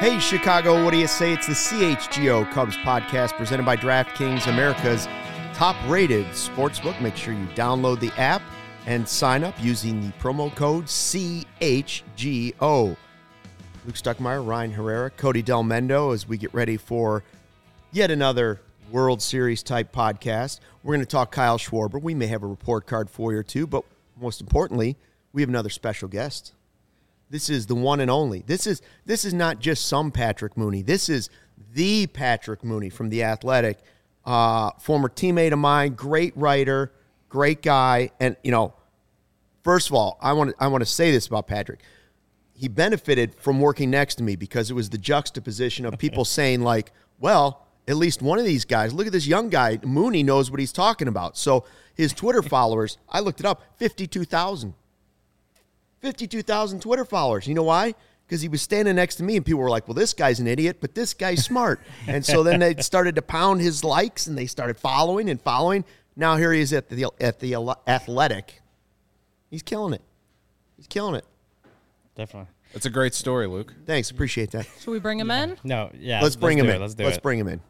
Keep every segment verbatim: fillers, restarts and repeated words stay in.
Hey, Chicago, what do you say? It's the C H G O Cubs podcast presented by DraftKings, America's top-rated sportsbook. Make sure you download the app and sign up using the promo code C H G O. Luke Stuckmeyer, Ryan Herrera, Cody Del Mendo as we get ready for yet another World Series-type podcast. We're going to talk Kyle Schwarber. We may have a report card for you or two, but most importantly, we have another special guest. This is the one and only. This is this is not just some Patrick Mooney. This is the Patrick Mooney from The Athletic, uh, former teammate of mine, great writer, great guy. And, you know, first of all, I want to I want to say this about Patrick. He benefited from working next to me because it was the juxtaposition of people saying, like, well, at least one of these guys, look at this young guy, Mooney knows what he's talking about. So his Twitter followers, I looked it up, fifty-two thousand. fifty-two thousand Twitter followers. You know why? Because he was standing next to me, and people were like, well, this guy's an idiot, but this guy's smart. And so then they started to pound his likes, and they started following and following. Now here he is at the at the Athletic. He's killing it. He's killing it. Definitely. That's a great story, Luke. Thanks. Appreciate that. Should we bring him yeah. in? No, yeah. Let's bring let's him in. Let's do Let's it. bring him in.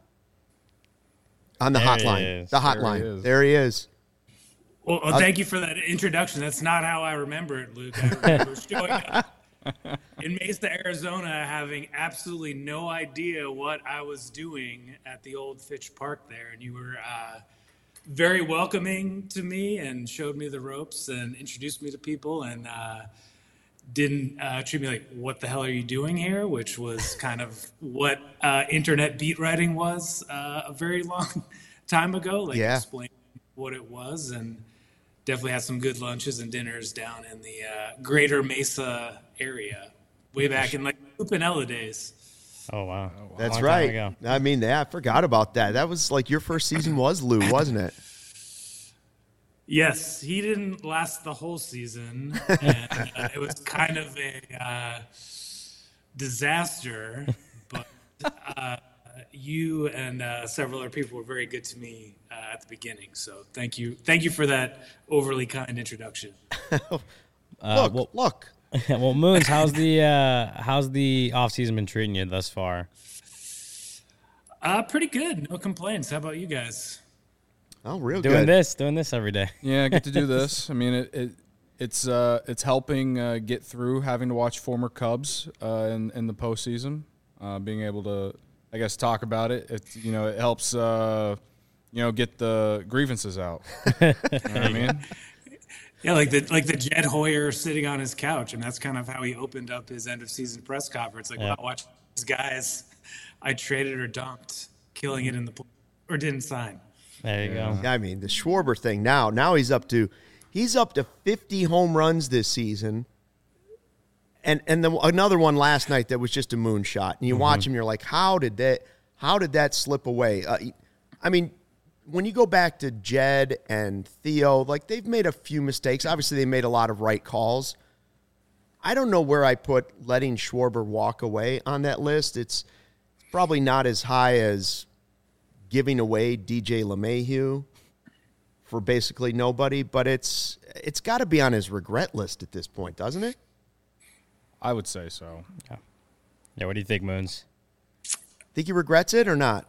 On the There hotline. he is. The There hotline. he is. There he is. Well, well, thank you for that introduction. That's not how I remember it, Luke. I remember showing up in Mesa, Arizona, having absolutely no idea what I was doing at the old Fitch Park there. And you were uh, very welcoming to me and showed me the ropes and introduced me to people and uh, didn't uh, treat me like, what the hell are you doing here? Which was kind of what uh, internet beat writing was uh, a very long time ago. Like Yeah. explaining what it was, and definitely had some good lunches and dinners down in the uh, greater Mesa area way back in like Lupinella days. Oh, wow. That's Long time right. ago. I mean, yeah, I forgot about that. That was like your first season was Lou, wasn't it? Yes, he didn't last the whole season, and uh, it was kind of a uh, disaster, but uh, you and uh, several other people were very good to me uh, at the beginning. So thank you. Thank you for that overly kind introduction. look, Uh, well, look. well, Moons, how's the uh, how's the off season been treating you thus far? Uh, pretty good. No complaints. How about you guys? Oh, real Doing good. this, doing this every day. Yeah, I get to do this. I mean, it, it it's uh, it's helping uh, get through having to watch former Cubs uh, in in the postseason. Uh, being able to, I guess, talk about it. It you know it helps uh, you know get the grievances out. You know what I mean? Yeah, like the like the Jed Hoyer sitting on his couch, and that's kind of how he opened up his end of season press conference. Like, Yeah. wow, watch these guys I traded or dumped, killing it in the play, or didn't sign. There you go. I mean, the Schwarber thing now, now he's up to he's up to fifty home runs this season. And and then another one last night that was just a moonshot. And you Mm-hmm. watch him, you're like, how did that how did that slip away? Uh, I mean, when you go back to Jed and Theo, like they've made a few mistakes. Obviously, they made a lot of right calls. I don't know where I put letting Schwarber walk away on that list. It's probably not as high as giving away D J LeMahieu for basically nobody, but it's it's got to be on his regret list at this point, doesn't it? I would say so. Yeah, what do you think, Moons? Think he regrets it or not?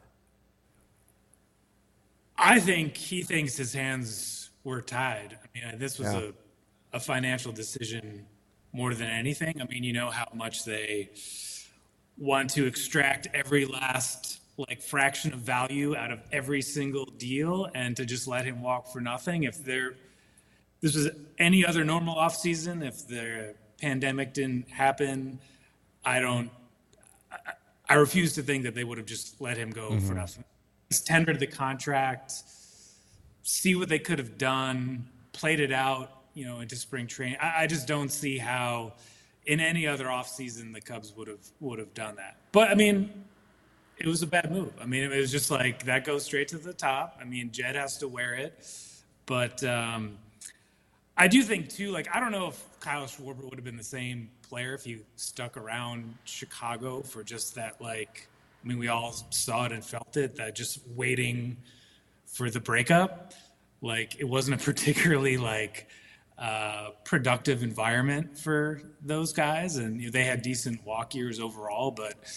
I think he thinks his hands were tied. I mean, this was Yeah. a, a financial decision more than anything. I mean, you know how much they want to extract every last like fraction of value out of every single deal, and to just let him walk for nothing. If there, this was any other normal offseason, if the pandemic didn't happen, I don't, I, I refuse to think that they would have just let him go mm-hmm. for nothing. He's tendered the contract, see what they could have done, played it out, you know, into spring training. I, I just don't see how in any other offseason the Cubs would have would have done that. But I mean, it was a bad move. I mean, it was just like that goes straight to the top. I mean, Jed has to wear it. But um, I do think, too, like, I don't know if Kyle Schwarber would have been the same player if he stuck around Chicago for just that, like, I mean, we all saw it and felt it, that just waiting for the breakup. Like, it wasn't a particularly, like, uh, productive environment for those guys. And you know, they had decent walk years overall, but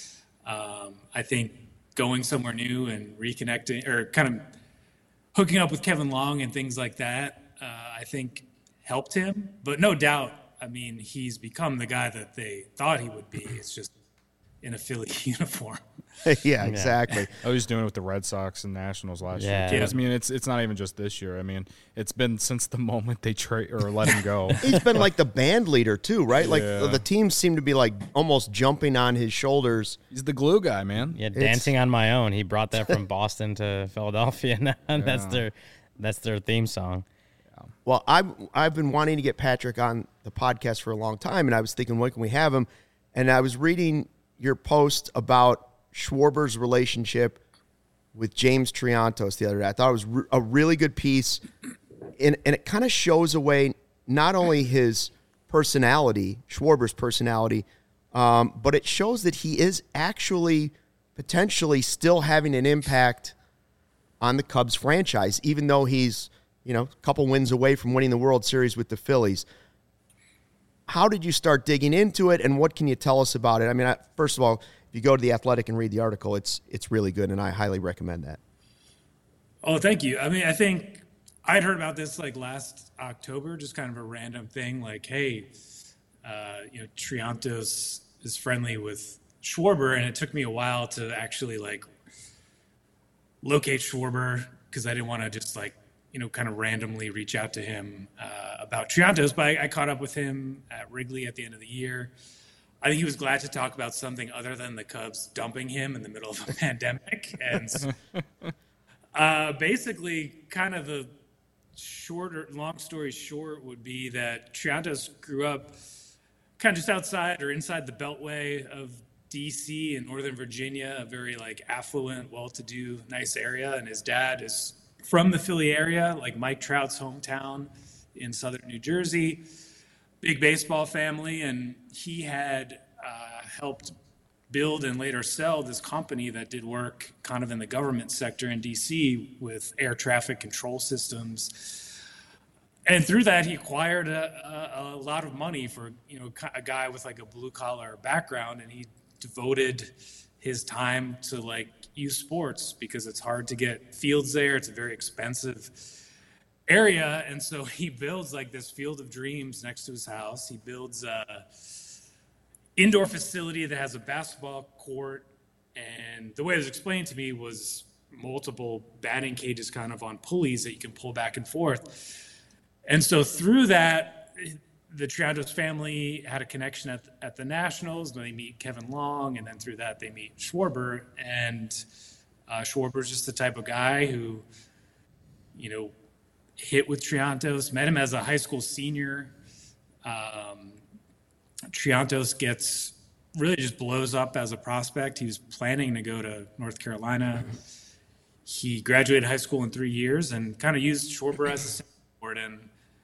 Um, I think going somewhere new and reconnecting or kind of hooking up with Kevin Long and things like that, uh, I think helped him. But no doubt, I mean, he's become the guy that they thought he would be. It's just in a Philly uniform. Yeah, exactly. I was doing it with the Red Sox and Nationals last Yeah. year. Yeah. I mean, it's it's not even just this year. I mean, it's been since the moment they trade or let him go. He's been like the band leader too, right? Like Yeah. the, the teams seem to be like almost jumping on his shoulders. He's the glue guy, man. Yeah, dancing on my own. He brought that from Boston to Philadelphia. Now that's their that's their theme song. Well, I've, I've been wanting to get Patrick on the podcast for a long time, and I was thinking, when can we have him? And I was reading your post about Schwarber's relationship with James Triantos the other day. I thought it was re- a really good piece, and, and it kind of shows away not only his personality, Schwarber's personality, um, but it shows that he is actually potentially still having an impact on the Cubs franchise, even though he's, you know, a couple wins away from winning the World Series with the Phillies. How did you start digging into it, and what can you tell us about it? I mean, I, first of all, if you go to The Athletic and read the article, it's it's really good, and I highly recommend that. Oh, thank you. I mean, I think I'd heard about this like last October, just kind of a random thing, like, hey, uh, you know, Triantos is friendly with Schwarber, and it took me a while to actually like locate Schwarber because I didn't want to just like, you know, kind of randomly reach out to him uh, about Triantos, but I, I caught up with him at Wrigley at the end of the year. I think he was glad to talk about something other than the Cubs dumping him in the middle of a pandemic. And uh, basically, kind of the shorter, long story short would be that Triantos grew up kind of just outside or inside the Beltway of D C in Northern Virginia, a very like affluent, well-to-do, nice area. And his dad is from the Philly area, like Mike Trout's hometown in southern New Jersey. Big baseball family, and he had uh, helped build and later sell this company that did work kind of in the government sector in D C with air traffic control systems. And through that, he acquired a, a, a lot of money for, you know, a guy with like a blue collar background, and he devoted his time to like youth sports because it's hard to get fields there. It's a very expensive area, and so he builds like this field of dreams next to his house. He builds a indoor facility that has a basketball court, and the way it was explained to me was multiple batting cages kind of on pulleys that you can pull back and forth. And so through that, the Triantos family had a connection at, at the Nationals. Then they meet Kevin Long, and then through that they meet Schwarber. And uh, Schwarber's just the type of guy who, you know, hit with Triantos, met him as a high school senior. Um, Triantos gets really just blows up as a prospect. He was planning to go to North Carolina. He graduated high school in three years and kind of used Schwarber as a springboard. And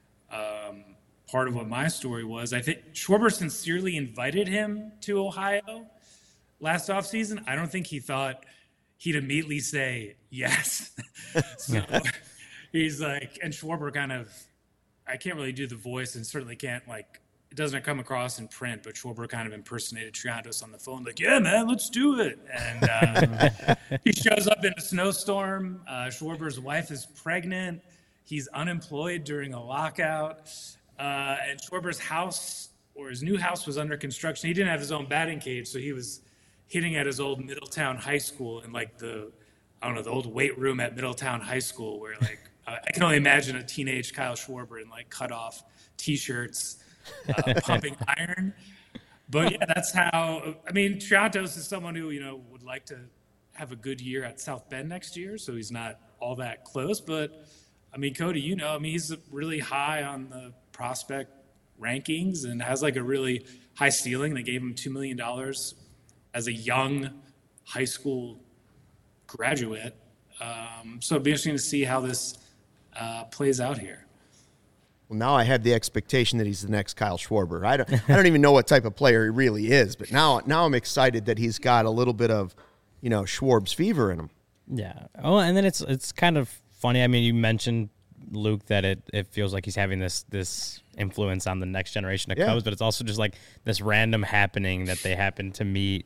um, part of what my story was, I think Schwarber sincerely invited him to Ohio last offseason. I don't think he thought he'd immediately say yes. So he's like, and Schwarber kind of, I can't really do the voice and certainly can't like, it doesn't come across in print, but Schwarber kind of impersonated Triantos on the phone, like, yeah, man, let's do it. And uh, he shows up in a snowstorm. Uh, Schwarber's wife is pregnant. He's unemployed during a lockout. Uh, and Schwarber's house, or his new house, was under construction. He didn't have his own batting cage, so he was hitting at his old Middletown High School in like the, I don't know, the old weight room at Middletown High School, where like, uh, I can only imagine a teenage Kyle Schwarber in like cut off t-shirts, uh, pumping iron. But yeah, that's how, I mean, Triantos is someone who, you know, would like to have a good year at South Bend next year, so he's not all that close. But I mean, Cody, you know, I mean, he's really high on the prospect rankings and has like a really high ceiling. They gave him two million dollars as a young high school graduate. Um, so it'd be interesting to see how this uh, plays out here. Well, now I have the expectation that he's the next Kyle Schwarber. I don't, I don't even know what type of player he really is, but now, now I'm excited that he's got a little bit of, you know, Schwarb's fever in him. Yeah. Oh, and then it's it's kind of funny. I mean, you mentioned, Luke, that it, it feels like he's having this this influence on the next generation of Yeah. Cubs, but it's also just like this random happening that they happen to meet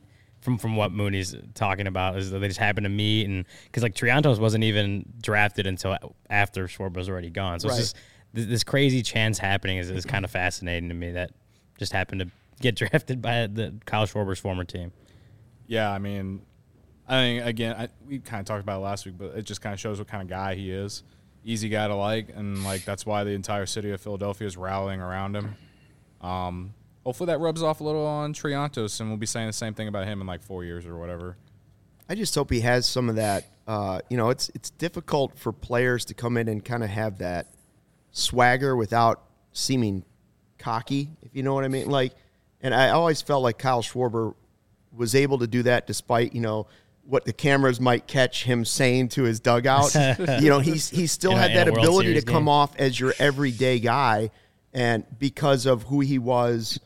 from from what Mooney's talking about is that they just happened to meet, and because like Triantos wasn't even drafted until after Schwarber was already gone. So right. it's just this, this crazy chance happening is, is kind of fascinating to me that just happened to get drafted by the Kyle Schwarber's former team. Yeah, I mean, I think again, I, we kind of talked about it last week, but it just kind of shows what kind of guy he is. Easy guy to like, and like that's why the entire city of Philadelphia is rallying around him. Um, hopefully that rubs off a little on Triantos, and we'll be saying the same thing about him in like four years or whatever. I just hope he has some of that. Uh, you know, it's it's difficult for players to come in and kind of have that swagger without seeming cocky, if you know what I mean. Like, and I always felt like Kyle Schwarber was able to do that despite, you know, what the cameras might catch him saying to his dugout. You know, he's he still in had a, that ability to game. come off as your everyday guy, and because of who he was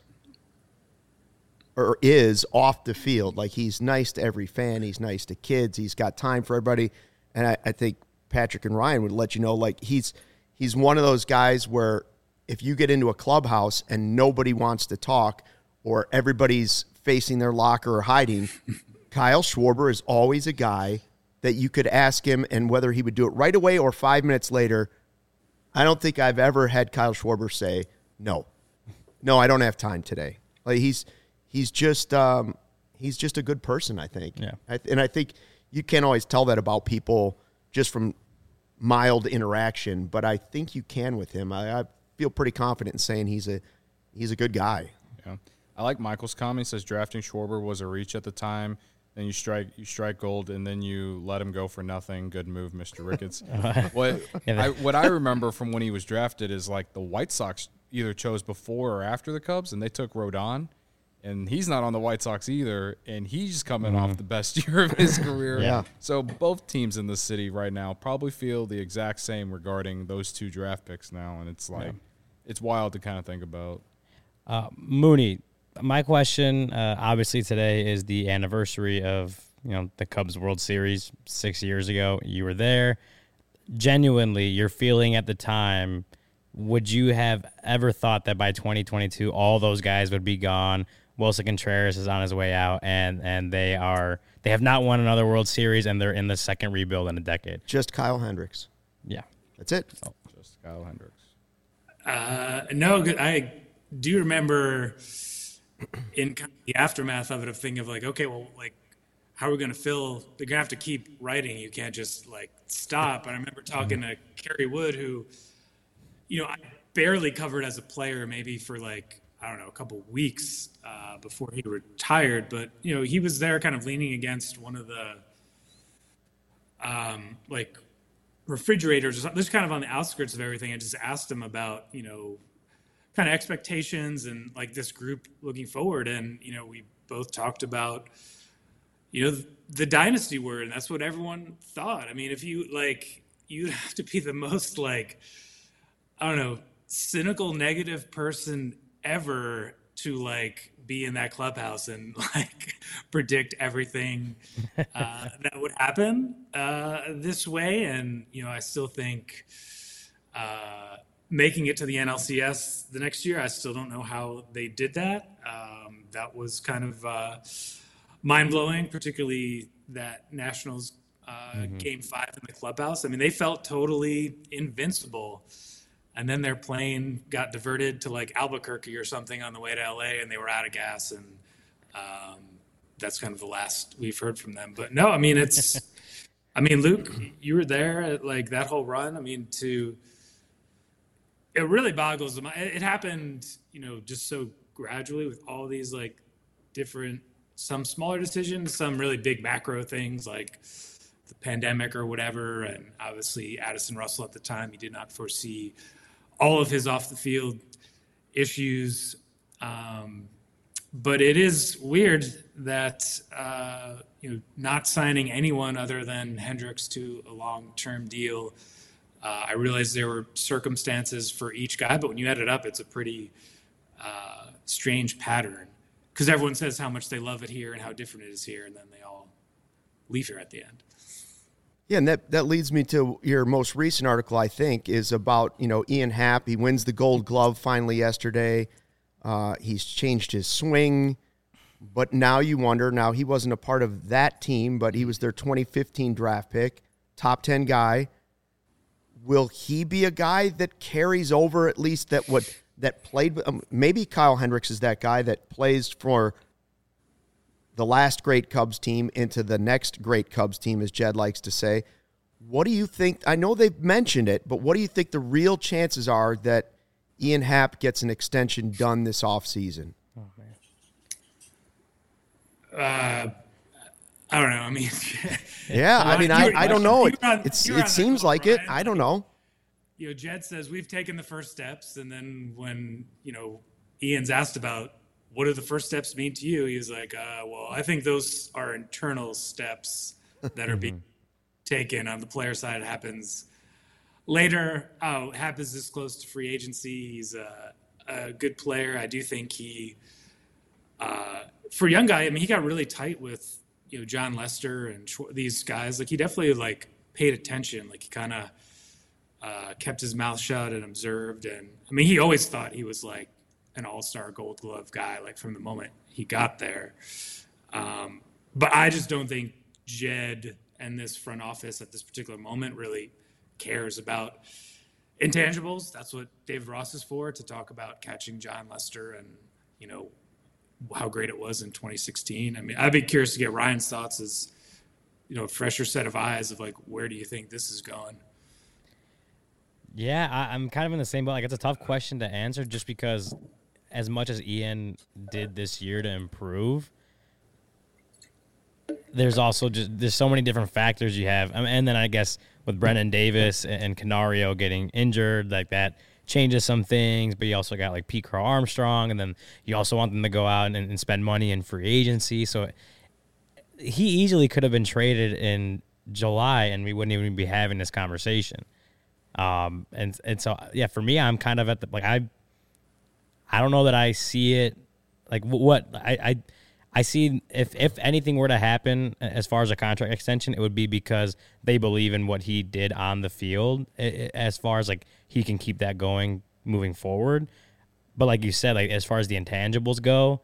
or is off the field, like he's nice to every fan, he's nice to kids, he's got time for everybody, and I, I think Patrick and Ryan would let you know, like he's he's one of those guys where if you get into a clubhouse and nobody wants to talk or everybody's facing their locker or hiding, Kyle Schwarber is always a guy that you could ask him, and whether he would do it right away or five minutes later, I don't think I've ever had Kyle Schwarber say, no, no, I don't have time today. Like he's he's just um, he's just a good person, I think. Yeah. I, and I think you can't always tell that about people just from mild interaction, but I think you can with him. I, I feel pretty confident in saying he's a he's a good guy. Yeah, I like Michael's comment. He says drafting Schwarber was a reach at the time. Then you strike you strike gold, and then you let him go for nothing. Good move, Mister Ricketts. what I what I remember from when he was drafted is like the White Sox either chose before or after the Cubs, and they took Rodon, and he's not on the White Sox either, and he's coming mm-hmm. off the best year of his career. Yeah. So both teams in the city right now probably feel the exact same regarding those two draft picks now, and it's like yeah. it's wild to kind of think about. Uh, Mooney. My question, uh, obviously today is the anniversary of, you know, the Cubs World Series six years ago. You were there. Genuinely, your feeling at the time, would you have ever thought that by twenty twenty-two all those guys would be gone? Wilson Contreras is on his way out, and and they are they have not won another World Series, and they're in the second rebuild in a decade. Just Kyle Hendricks. Yeah, that's it. Oh, just Kyle Hendricks. Uh, no, I do remember in kind of the aftermath of it, of thinking of like, okay, well, like, how are we going to fill? They're going to have to keep writing. You can't just like stop. And I remember talking to Kerry Wood, who, you know, I barely covered as a player, maybe for like, I don't know, a couple of weeks uh, before he retired. But, you know, he was there kind of leaning against one of the um, like refrigerators or something, just kind of on the outskirts of everything. I just asked him about, you know, kind of expectations and like this group looking forward. And, you know, we both talked about, you know, the dynasty word, and that's what everyone thought. I mean, if you like, you'd have to be the most like, I don't know, cynical, negative person ever to like be in that clubhouse and like predict everything uh, that would happen uh, this way. And, you know, I still think, uh, making it to the N L C S the next year, I still don't know how they did that. Um, that was kind of uh, mind-blowing, particularly that Nationals uh, mm-hmm. game five in the clubhouse. I mean, they felt totally invincible. And then their plane got diverted to like Albuquerque or something on the way to L A, and they were out of gas. And um, that's kind of the last we've heard from them. But no, I mean, it's, I mean, Luke, you were there at like that whole run. I mean, to, it really boggles the mind. It happened, you know, just so gradually with all these like different, some smaller decisions, some really big macro things like the pandemic or whatever. And obviously Addison Russell at the time, he did not foresee all of his off the field issues. Um, but it is weird that, uh, you know, not signing anyone other than Hendricks to a long-term deal. Uh, I realized there were circumstances for each guy, but when you add it up, it's a pretty uh, strange pattern because everyone says how much they love it here and how different it is here, and then they all leave here at the end. Yeah, and that, that leads me to your most recent article, I think, is about, you know, Ian Happ. He wins the Gold Glove finally yesterday. Uh, he's changed his swing. but now you wonder, now he wasn't a part of that team, but he was their twenty fifteen draft pick, top ten guy. Will he be a guy that carries over at least that what that played? Um, maybe Kyle Hendricks is that guy that plays for the last great Cubs team into the next great Cubs team, as Jed likes to say. What do you think? I know they've mentioned it, but what do you think the real chances are that Ian Happ gets an extension done this offseason? Oh, man. Uh, I don't know. I mean, yeah, I mean, I, I don't know. It, on, it's, it seems like Ryan. it. I don't know. You know, Jed says we've taken the first steps, and then when, you know, Ian's asked about what do the first steps mean to you, he was like, uh, well, I think those are internal steps that are being taken. On the player side, it happens later. Oh, Happ is this close to free agency. He's a, a good player. I do think he, uh, for a young guy, I mean, he got really tight with, you know, John Lester and these guys. Like, he definitely, like, paid attention. Like, he kind of uh, kept his mouth shut and observed. And, I mean, he always thought he was, like, an all-star Gold Glove guy, like, from the moment he got there. Um, but I just don't think Jed and this front office at this particular moment really cares about intangibles. That's what David Ross is for, to talk about catching John Lester and, you know, how great it was in twenty sixteen. I mean, I'd be curious to get Ryan's thoughts as, you know, a fresher set of eyes of, like, where do you think this is going? Yeah, I, I'm kind of in the same boat. Like, it's a tough question to answer just because as much as Ian did this year to improve, there's also just there's so many different factors you have. I mean, and then I guess with Brendan Davis and Canario getting injured, like that changes some things, but you also got like Pete Crow Armstrong, and then you also want them to go out and, and spend money in free agency. So he easily could have been traded in July and we wouldn't even be having this conversation. Um, and, and so, yeah, for me, I'm kind of at the, like, I, I don't know that I see it like what I, I, I see if, if anything were to happen as far as a contract extension, it would be because they believe in what he did on the field as far as like he can keep that going moving forward. But like you said, like as far as the intangibles go,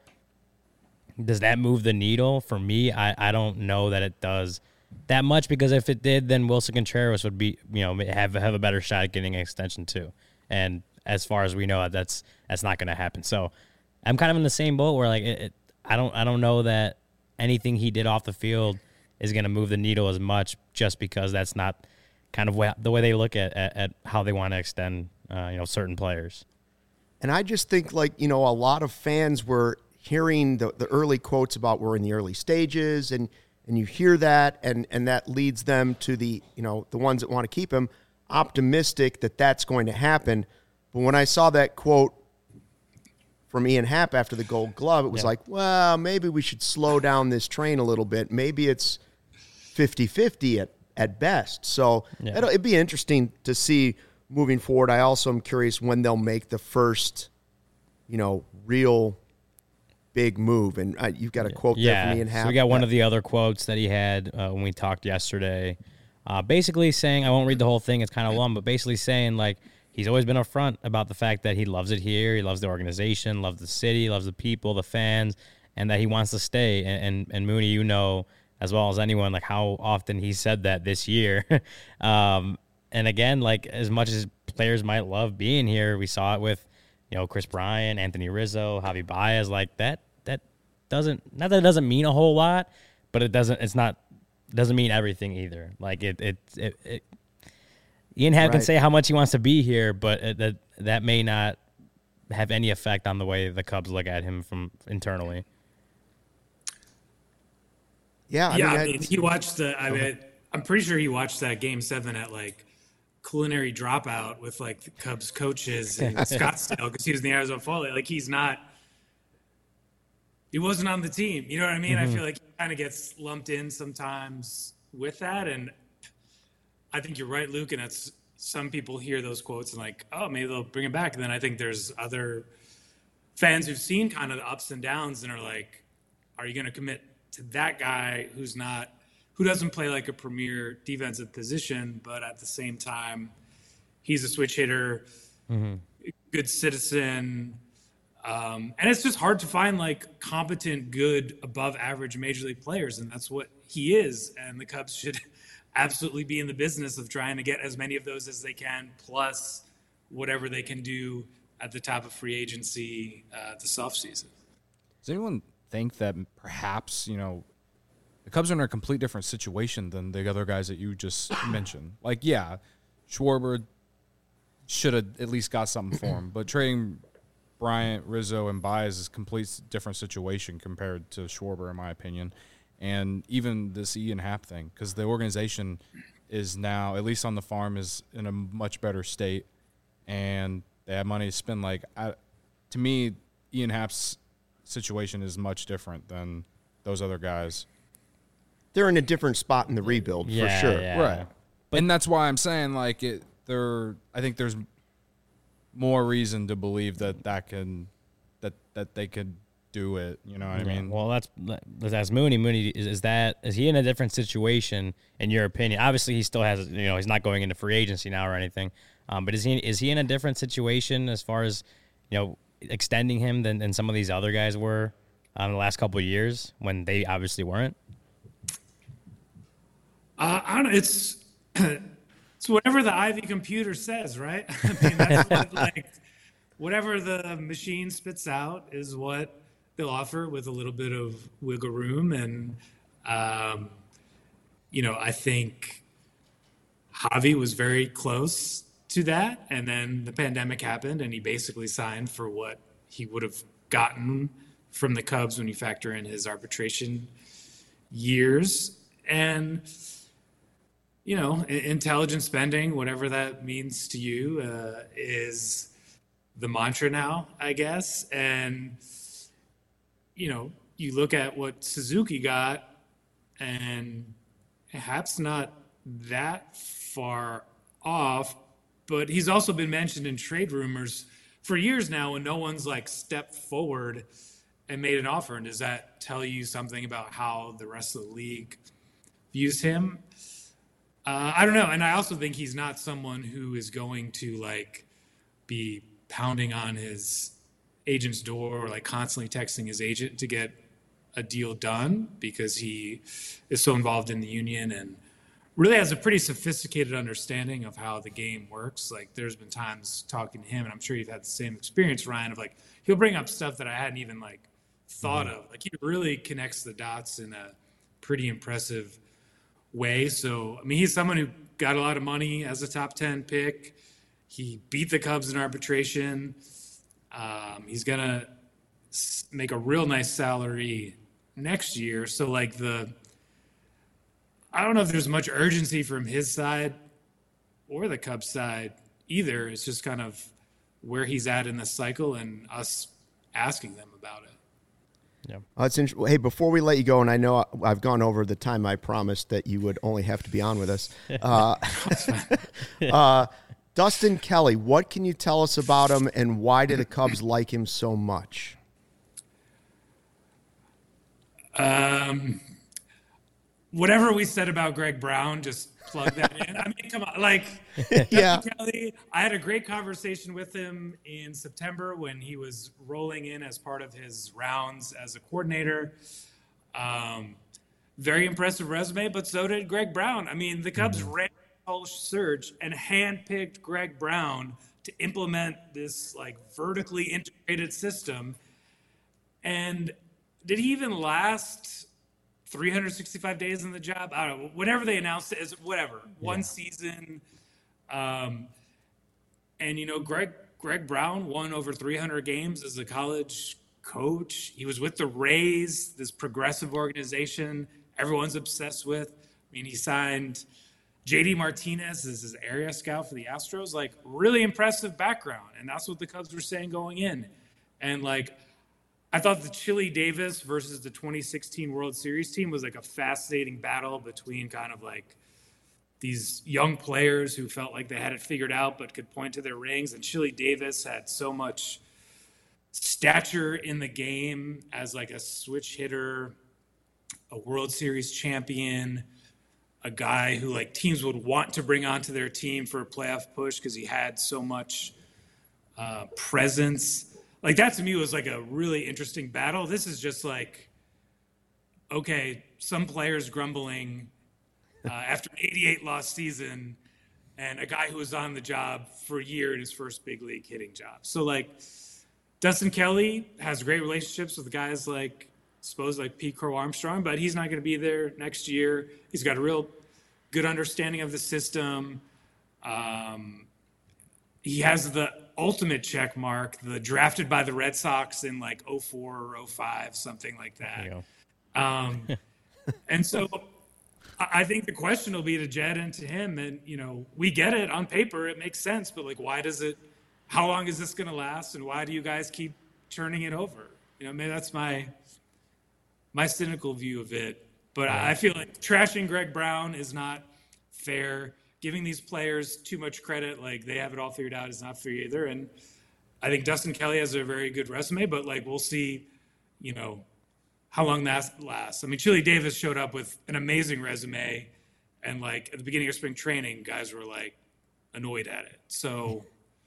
does that move the needle? For me, I, I don't know that it does that much, because if it did, then Wilson Contreras would be, you know, have, have a better shot at getting an extension too. And as far as we know, that's, that's not going to happen. So I'm kind of in the same boat where like it, it I don't I don't know that anything he did off the field is going to move the needle as much, just because that's not kind of the way they look at, at, at how they want to extend uh, you know, certain players. And I just think, like, you know, a lot of fans were hearing the, the early quotes about we're in the early stages, and and you hear that, and and that leads them to the, you know, the ones that want to keep him optimistic that that's going to happen. But when I saw that quote from Ian Happ after the Gold Glove, it was yeah. like, well, maybe we should slow down this train a little bit. Maybe it's fifty-fifty at, at best. So yeah. it'll, it'd be interesting to see moving forward. I also am curious when they'll make the first, you know, real big move. And uh, you've got a quote yeah. there from Ian Happ. So we got one of the other quotes that he had uh, when we talked yesterday, uh, basically saying, I won't read the whole thing, it's kind of long, but basically saying, like, he's always been upfront about the fact that he loves it here. He loves the organization, loves the city, loves the people, the fans, and that he wants to stay. And, and, and Mooney, you know as well as anyone, like how often he said that this year. um, and again, like as much as players might love being here, we saw it with, you know, Chris Bryant, Anthony Rizzo, Javi Baez, like that. That doesn't not that it doesn't mean a whole lot, but it doesn't. It's not doesn't mean everything either. Like it it it. it Ian Happ right. can say how much he wants to be here, but it, that that may not have any effect on the way the Cubs look at him from internally. Yeah, I yeah. mean, I mean, he watched the. I mean, I'm pretty sure he watched that Game Seven at like Culinary Dropout with like the Cubs coaches in Scottsdale, because he was in the Arizona Fall League. Like he's not. He wasn't on the team. You know what I mean? Mm-hmm. I feel like he kind of gets lumped in sometimes with that, and I think you're right, Luke, and that's some people hear those quotes and like, oh, maybe they'll bring him back. And then I think there's other fans who've seen kind of the ups and downs and are like, are you going to commit to that guy who's not, who doesn't play like a premier defensive position, but at the same time, he's a switch hitter, mm-hmm. good citizen, Um, and it's just hard to find like competent, good, above average major league players. And that's what he is. And the Cubs should absolutely be in the business of trying to get as many of those as they can, plus whatever they can do at the top of free agency uh, this offseason. Does anyone think that perhaps, you know, the Cubs are in a complete different situation than the other guys that you just mentioned? Like, yeah, Schwarber should have at least got something for him, but trading Bryant, Rizzo, and Baez is a complete different situation compared to Schwarber, in my opinion. And even this Ian Happ thing, because the organization is now, at least on the farm, is in a much better state, and they have money to spend. Like, I, to me, Ian Happ's situation is much different than those other guys. They're in a different spot in the rebuild, yeah, for sure. Yeah. Right. But, and that's why I'm saying, like, it. There, I think there's more reason to believe that that can, that that they could do it. You know what Yeah, I mean? Well, let's let's ask Mooney. Mooney, is, is that is he in a different situation in your opinion? Obviously, he still has, you know, he's not going into free agency now or anything. Um, but is he is he in a different situation as far as, you know, extending him than, than some of these other guys were um, the last couple of years when they obviously weren't? Uh, I don't know. It's it's whatever the Ivy computer says, right? I mean, that's what, like, whatever the machine spits out is what they'll offer with a little bit of wiggle room. And, um, you know, I think Javi was very close to that. And then the pandemic happened and he basically signed for what he would have gotten from the Cubs when you factor in his arbitration years. And, you know, intelligent spending, whatever that means to you, uh, is the mantra now, I guess. And, you know, you look at what Suzuki got, and Happ's not that far off, but he's also been mentioned in trade rumors for years now when no one's like stepped forward and made an offer. And does that tell you something about how the rest of the league views him? Uh, I don't know. And I also think he's not someone who is going to like be pounding on his agent's door or like constantly texting his agent to get a deal done, because he is so involved in the union and really has a pretty sophisticated understanding of how the game works. Like, there's been times talking to him, and I'm sure you've had the same experience, Ryan, of like, he'll bring up stuff that I hadn't even like thought of. Like, he really connects the dots in a pretty impressive way. So, I mean, he's someone who got a lot of money as a top ten pick. He beat the Cubs in arbitration. Um, he's going to make a real nice salary next year. So, like, the, I don't know if there's much urgency from his side or the Cubs side either. It's just kind of where he's at in the cycle and us asking them about it. Yeah. Uh, it's int- hey, before we let you go, and I know I've gone over the time I promised that you would only have to be on with us. Uh, uh, Dustin Kelly, what can you tell us about him, and why do the Cubs like him so much? Um, whatever we said about Greg Brown, just plug that in. I mean, come on, like, yeah. Kelly, I had a great conversation with him in September when he was rolling in as part of his rounds as a coordinator. Um, very impressive resume, but so did Greg Brown. I mean, the Cubs mm-hmm. ran a whole surge and handpicked Greg Brown to implement this like vertically integrated system. And did he even last three hundred sixty-five days in the job? I don't know. Whatever they announced it as, whatever. One yeah. season. Um, and, you know, Greg Greg Brown won over three hundred games as a college coach. He was with the Rays, this progressive organization everyone's obsessed with. I mean, he signed J D Martinez as his area scout for the Astros. Like, really impressive background. And that's what the Cubs were saying going in. And, like, I thought the Chili Davis versus the twenty sixteen World Series team was like a fascinating battle between kind of like these young players who felt like they had it figured out but could point to their rings. And Chili Davis had so much stature in the game as like a switch hitter, a World Series champion, a guy who like teams would want to bring onto their team for a playoff push because he had so much uh, presence. like that to me was like a really interesting battle. This is just like, okay, some players grumbling uh, after an eighty-eight loss season, and a guy who was on the job for a year in his first big league hitting job. So like Dustin Kelly has great relationships with guys like, suppose like Pete Crow Armstrong, but he's not going to be there next year. He's got a real good understanding of the system. Um, he has the ultimate check mark, the drafted by the Red Sox in like oh four or oh five, something like that. Um, and so I think the question will be to Jed and to him. And, you know, we get it on paper. It makes sense. But, like, why does it – how long is this going to last? And why do you guys keep turning it over? You know, maybe that's my my cynical view of it. But yeah. I feel like trashing Greg Brown is not fair. Giving these players too much credit, like they have it all figured out, is not fair either. And I think Dustin Kelly has a very good resume. But, like, we'll see, you know, how long that lasts. I mean, Chili Davis showed up with an amazing resume, and like at the beginning of spring training, guys were like annoyed at it. So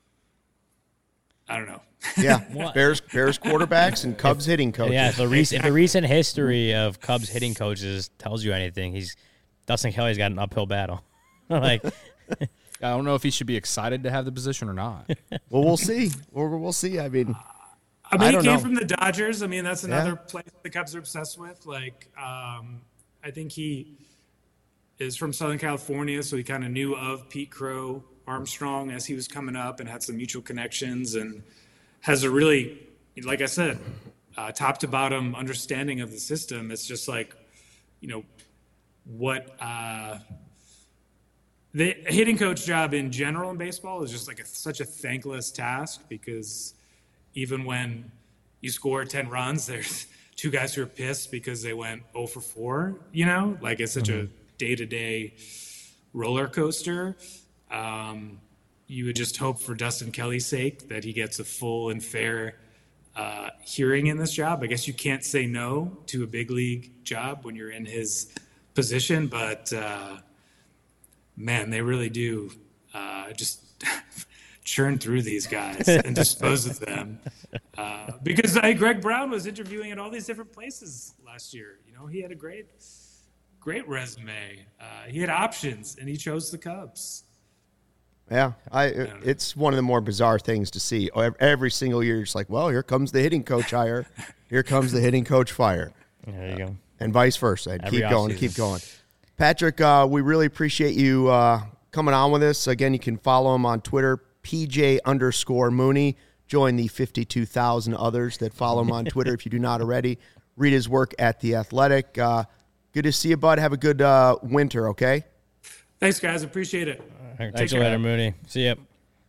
I don't know. Yeah, Bears Bears quarterbacks and Cubs hitting coaches. Yeah, if the recent if the recent history of Cubs hitting coaches tells you anything, he's Dustin Kelly's got an uphill battle. Like, I don't know if he should be excited to have the position or not. Well, we'll see. We'll, we'll see. I mean. I mean, I he don't came know. from the Dodgers. I mean, that's another Yeah. place the Cubs are obsessed with. Like, um, I think he is from Southern California, so he kind of knew of Pete Crow Armstrong as he was coming up and had some mutual connections and has a really, like I said, uh, top to bottom understanding of the system. It's just like, you know, what uh, the hitting coach job in general in baseball is just like a, such a thankless task, because even when you score ten runs, there's two guys who are pissed because they went oh for four, you know? Like, it's such mm-hmm. a day-to-day roller coaster. Um, you would just hope for Dustin Kelly's sake that he gets a full and fair uh, hearing in this job. I guess you can't say no to a big league job when you're in his position, but, uh, man, they really do uh, just – churn through these guys and dispose of them. Uh, because uh, Greg Brown was interviewing at all these different places last year. You know, he had a great, great resume. Uh, he had options, and he chose the Cubs. Yeah, I. It's one of the more bizarre things to see. Every single year, it's like, well, here comes the hitting coach hire. Here comes the hitting coach fire. There you go. And vice versa. I'd Every keep going, off-season. keep going. Patrick, uh, we really appreciate you uh, coming on with us. Again, you can follow him on Twitter, P J underscore Mooney. Join the fifty-two thousand others that follow him on Twitter if you do not already. Read his work at The Athletic. Uh, good to see you, bud. Have a good uh, winter, okay? Thanks, guys. Appreciate it. Right, Take you later, Mooney. See ya.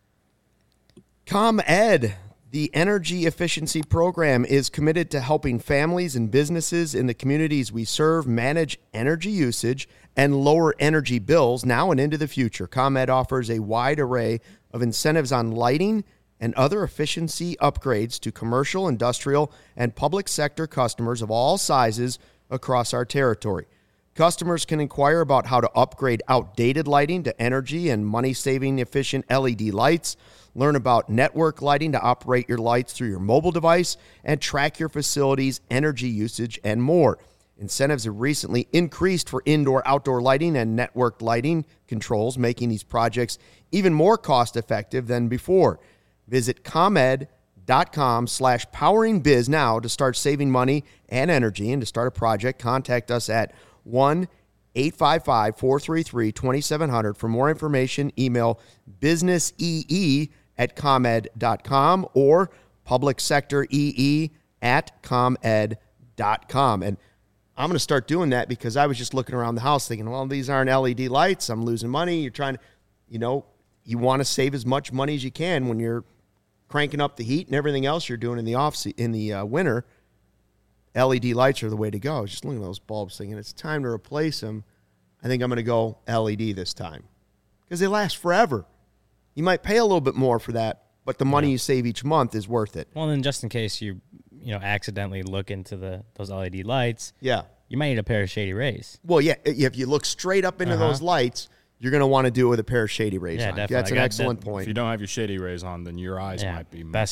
ComEd, the energy efficiency program, is committed to helping families and businesses in the communities we serve manage energy usage and lower energy bills now and into the future. ComEd offers a wide array of incentives on lighting and other efficiency upgrades to commercial, industrial, and public sector customers of all sizes across our territory. Customers can inquire about how to upgrade outdated lighting to energy and money-saving efficient L E D lights, learn about network lighting to operate your lights through your mobile device, and track your facility's energy usage and more. Incentives have recently increased for indoor-outdoor lighting and networked lighting controls, making these projects even more cost-effective than before. Visit ComEd.com slash poweringbiz now to start saving money and energy. And to start a project, contact us at one eight five five, four three three, two seven zero zero. For more information, email businessee at comed dot com or publicsectoree at comed dot com. And I'm going to start doing that because I was just looking around the house thinking, well, these aren't L E D lights. I'm losing money. You're trying to, you know, you want to save as much money as you can when you're cranking up the heat and everything else you're doing in the off se- in the uh, winter. L E D lights are the way to go. I was just looking at those bulbs thinking it's time to replace them. I think I'm going to go L E D this time because they last forever. You might pay a little bit more for that, but the money yeah. you save each month is worth it. Well, then just in case you, you know, accidentally look into the those L E D lights, yeah, you might need a pair of Shady Rays. Well, yeah, if you look straight up into uh-huh. those lights, you're going to want to do it with a pair of Shady Rays yeah, on. Definitely. That's an excellent that, point. If you don't have your Shady Rays on, then your eyes yeah, might be best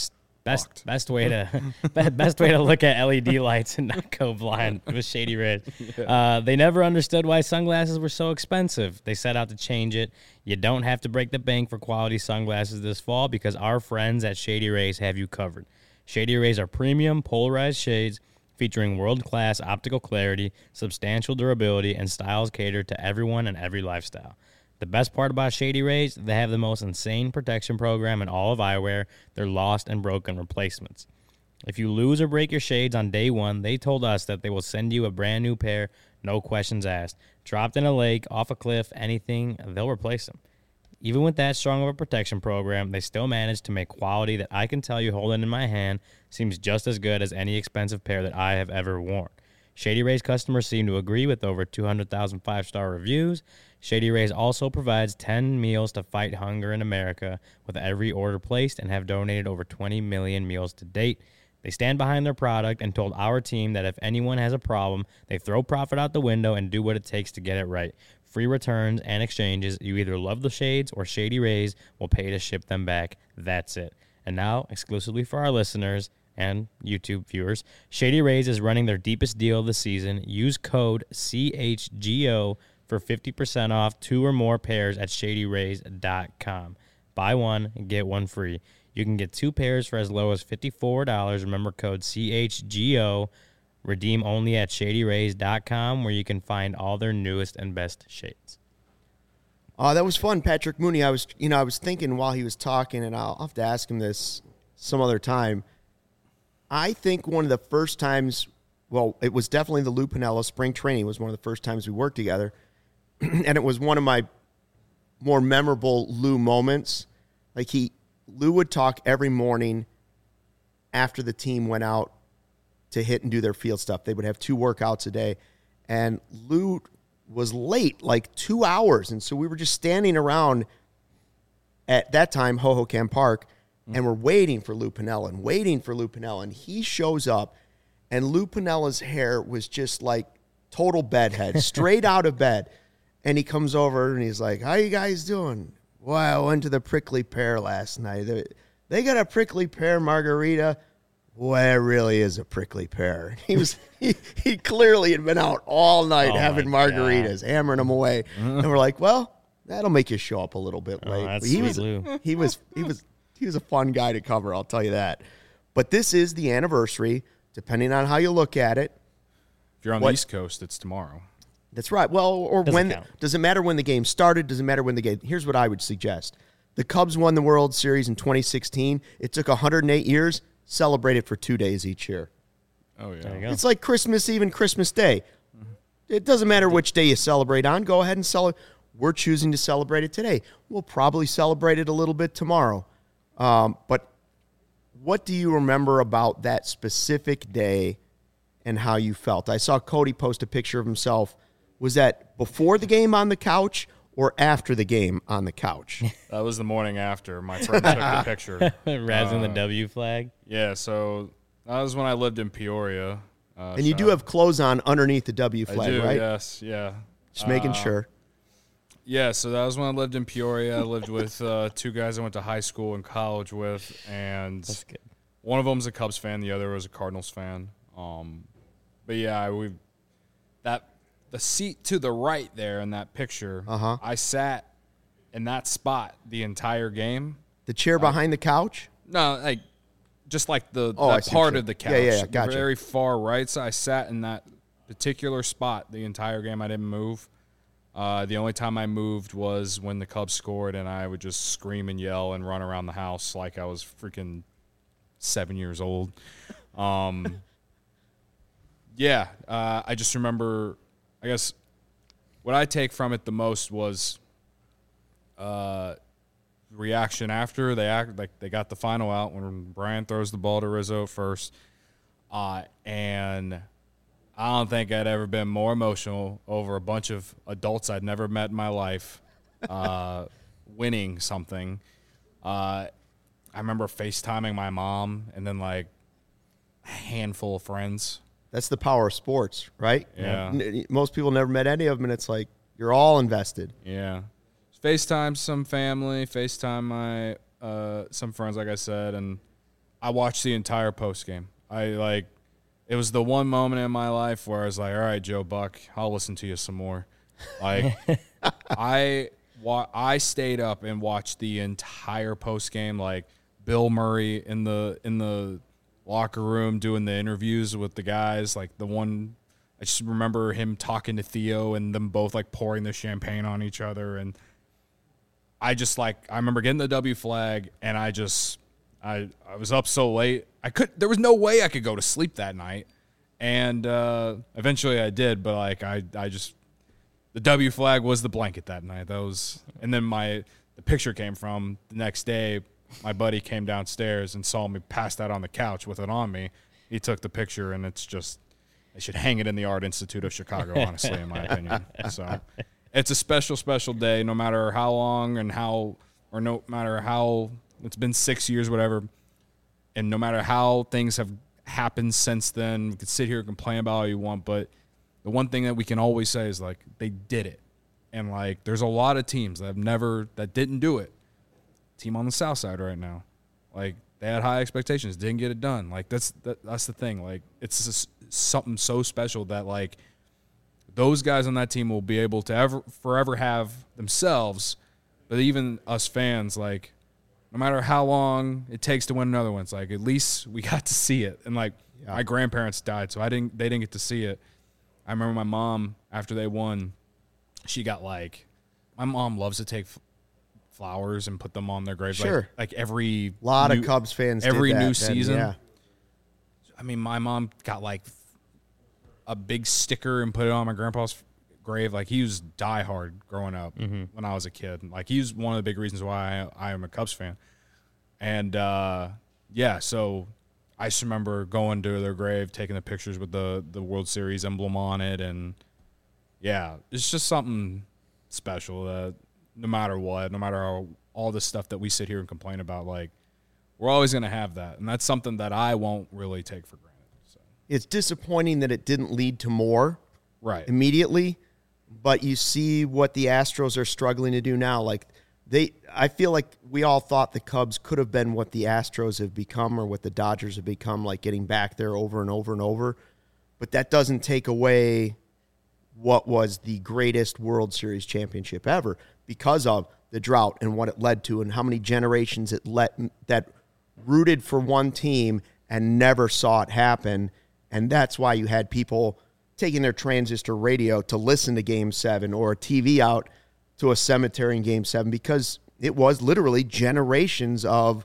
Best fucked. best way to be- best way to look at L E D lights and not go blind with Shady Rays. Uh, they never understood why sunglasses were so expensive. They set out to change it. You don't have to break the bank for quality sunglasses this fall because our friends at Shady Rays have you covered. Shady Rays are premium polarized shades featuring world-class optical clarity, substantial durability, and styles catered to everyone and every lifestyle. The best part about Shady Rays, they have the most insane protection program in all of eyewear. They're lost and broken replacements. If you lose or break your shades on day one, they told us that they will send you a brand new pair, no questions asked. Dropped in a lake, off a cliff, anything, they'll replace them. Even with that strong of a protection program, they still manage to make quality that I can tell you holding in my hand seems just as good as any expensive pair that I have ever worn. Shady Rays customers seem to agree with over two hundred thousand five-star reviews. Shady Rays also provides ten meals to fight hunger in America with every order placed and have donated over twenty million meals to date. They stand behind their product and told our team that if anyone has a problem, they throw profit out the window and do what it takes to get it right. Free returns and exchanges. You either love the shades or Shady Rays will pay to ship them back. That's it. And now, exclusively for our listeners and YouTube viewers, Shady Rays is running their deepest deal of the season. Use code C H G O for fifty percent off two or more pairs at shady rays dot com. Buy one and get one free. You can get two pairs for as low as fifty-four dollars. Remember code C H G O. Redeem only at shady rays dot com, where you can find all their newest and best shades. Oh, that was fun, Patrick Mooney. I was, you know, I was thinking while he was talking, and I'll have to ask him this some other time. I think one of the first times, well, it was definitely the Lou Piniella spring training was one of the first times we worked together, and it was one of my more memorable Lou moments. Like he, Lou would talk every morning after the team went out to hit and do their field stuff. They would have two workouts a day, and Lou was late, like two hours. And so we were just standing around at that time, Hohokam Park, and we're waiting for Lou Piniella and waiting for Lou Piniella. And he shows up, and Lou Piniella's hair was just like total bedhead, straight out of bed. And he comes over, and he's like, how you guys doing? Well, I went to the Prickly Pear last night. They, they got a Prickly Pear margarita. Well, it really is a prickly pear. He was he, he clearly had been out all night Oh having margaritas, God. hammering them away. And we're like, well, that'll make you show up a little bit late. Oh, that's he sweet was Lou. he was he was he was a fun guy to cover, I'll tell you that. But this is the anniversary, depending on how you look at it. If you're on What- the East Coast, it's tomorrow. That's right. Well, or Doesn't when count. does it matter when the game started? Does it matter when the game? Here's what I would suggest: the Cubs won the World Series in twenty sixteen. It took one hundred eight years. Celebrate it for two days each year. Oh, yeah. There you go. It's like Christmas Eve and Christmas Day. It doesn't matter which day you celebrate on. Go ahead and celebrate. We're choosing to celebrate it today. We'll probably celebrate it a little bit tomorrow. Um, but what do you remember about that specific day and how you felt? I saw Cody post a picture of himself. Was that before the game on the couch or after the game on the couch? That was the morning after. My friend took the picture. Razzing the W flag. Yeah, so that was when I lived in Peoria. Uh, And you do have clothes on underneath the W I flag, do, right? yes, yeah. Just making Uh, sure. Yeah, so that was when I lived in Peoria. I lived with uh, two guys I went to high school and college with, and That's good. one of them was a Cubs fan, the other was a Cardinals fan. Um, but yeah, we that the seat to the right there in that picture. Uh-huh. I sat in that spot the entire game. The chair behind the couch? No, like just like the Oh, I that see what part you- of the couch. yeah, yeah, yeah, the gotcha. very far right. So I sat in that particular spot the entire game. I didn't move. Uh, the only time I moved was when the Cubs scored, and I would just scream and yell and run around the house like I was freaking seven years old. Um, yeah, uh, I just remember, I guess, what I take from it the most was uh, reaction after they act like they got the final out when Brian throws the ball to Rizzo first, uh, and I don't think I'd ever been more emotional over a bunch of adults I'd never met in my life uh, winning something. Uh, I remember FaceTiming my mom and then like a handful of friends. That's the power of sports, right? Yeah. N- Most people never met any of them, and it's like you're all invested. Yeah. FaceTime some family, FaceTime my uh, some friends, like I said, and I watched the entire post game. I like it was the one moment in my life where I was like, all right, Joe Buck, I'll listen to you some more. Like I wa- I stayed up and watched the entire post game, like Bill Murray in the in the locker room doing the interviews with the guys, like the one I just remember him talking to Theo and them both like pouring the champagne on each other. And I just like, I remember getting the W flag and I just, I, I was up so late. I could, there was no way I could go to sleep that night. And uh, eventually I did, but like, I, I just, the W flag was the blanket that night. That was, and then my, the picture came from the next day. My buddy came downstairs and saw me passed out on the couch with it on me. He took the picture and it's just, they should hang it in the Art Institute of Chicago, honestly, in my opinion. So it's a special, special day, no matter how long and how, or no matter how, it's been six years, whatever, and no matter how things have happened since then, we could sit here and complain about all you want, but the one thing that we can always say is, like, they did it. And, like, there's a lot of teams that have never, that didn't do it. Team on the South Side right now. Like, they had high expectations, didn't get it done. Like, that's that, that's the thing. Like, it's just something so special that, like, those guys on that team will be able to ever forever have themselves, but even us fans, like, no matter how long it takes to win another one, it's like, at least we got to see it. And, like, yeah. my grandparents died, so I didn't they didn't get to see it. I remember my mom, after they won, she got, like, my mom loves to take flowers and put them on their graves. Sure. Like, like every a lot new, of Cubs fans every did that new then, season. Yeah. I mean, my mom got, like, a big sticker and put it on my grandpa's grave. Like, he was diehard growing up mm-hmm. when I was a kid. Like, he was one of the big reasons why I, I am a Cubs fan. And, uh, yeah, so I just remember going to their grave, taking the pictures with the, the World Series emblem on it. And, yeah, it's just something special that no matter what, no matter how, all the stuff that we sit here and complain about, like, we're always going to have that. And that's something that I won't really take for granted. So. It's disappointing that it didn't lead to more right immediately, but you see what the Astros are struggling to do now. Like, they, I feel like we all thought the Cubs could have been what the Astros have become or what the Dodgers have become, like getting back there over and over and over. But that doesn't take away what was the greatest World Series championship ever because of the drought and what it led to and how many generations it let that rooted for one team and never saw it happen. And that's why you had people taking their transistor radio to listen to Game seven or a T V out to a cemetery in Game seven because it was literally generations of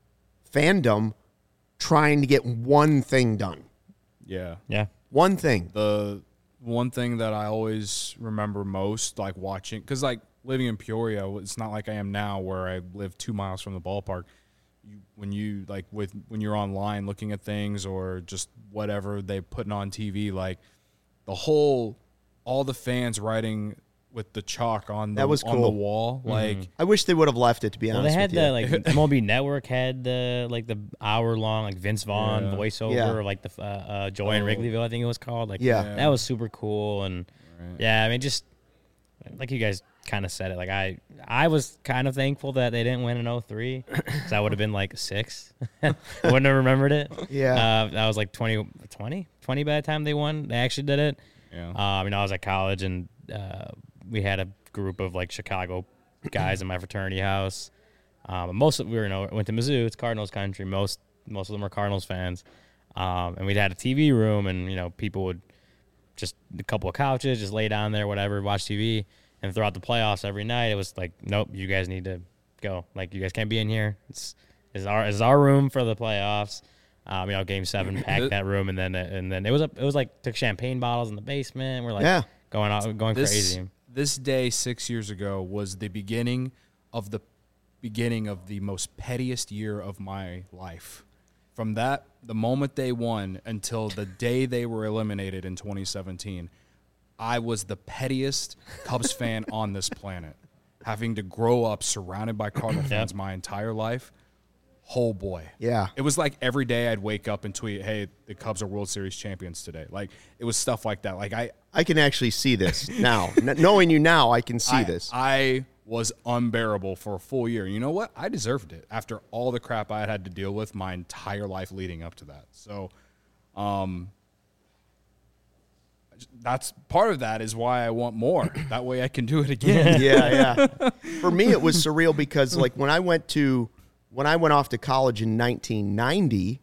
fandom trying to get one thing done. Yeah. Yeah. One thing. The one thing that I always remember most, like watching, because like living in Peoria, it's not like I am now where I live two miles from the ballpark. You, when you like with when you're online looking at things or just whatever they putting on T V, like the whole, all the fans writing with the chalk on the that was on cool. the wall, mm-hmm. like I wish they would have left it. To be well, honest, they had with the you. like M L B Network had the like the hour long like Vince Vaughn Yeah. voiceover, Yeah. like the uh, uh, Joy in Oh. Wrigleyville, I think it was called. Like Yeah. that was super cool, and Right. yeah, I mean just like you guys kind of said it. Like I, I was kind of thankful that they didn't win in oh three because I would have been like six. I wouldn't have remembered it. Yeah. Uh, I was like twenty, twenty, twenty by the time they won. They actually did it. yeah, Uh, I mean, I was at college and uh, we had a group of like Chicago guys in my fraternity house. Um, most of we were, you know, went to Mizzou. It's Cardinals country. Most most of them are Cardinals fans. Um, and we'd had a T V room, and you know, people would just a couple of couches, just lay down there, whatever, watch T V. And throughout the playoffs, every night it was like, nope, you guys need to go. Like, you guys can't be in here. It's it's our it's our room for the playoffs. Um, you know, Game Seven packed that room, and then and then it was a, it was like took champagne bottles in the basement. We're like Yeah. going out going this, crazy. This day six years ago was the beginning of the beginning of the most pettiest year of my life. From that, the moment they won until the day they were eliminated in twenty seventeen, I was the pettiest Cubs fan on this planet. Having to grow up surrounded by Cardinal fans my entire life, oh boy. Yeah. It was like every day I'd wake up and tweet, hey, the Cubs are World Series champions today. Like, it was stuff like that. Like, I I can actually see this now. N- knowing you now, I can see I, this. I was unbearable for a full year. You know what? I deserved it after all the crap I had had to deal with my entire life leading up to that. So, um, that's part of that is why I want more. That way I can do it again. yeah, yeah. For me, it was surreal because, like, when I went to when I went off to college in nineteen ninety,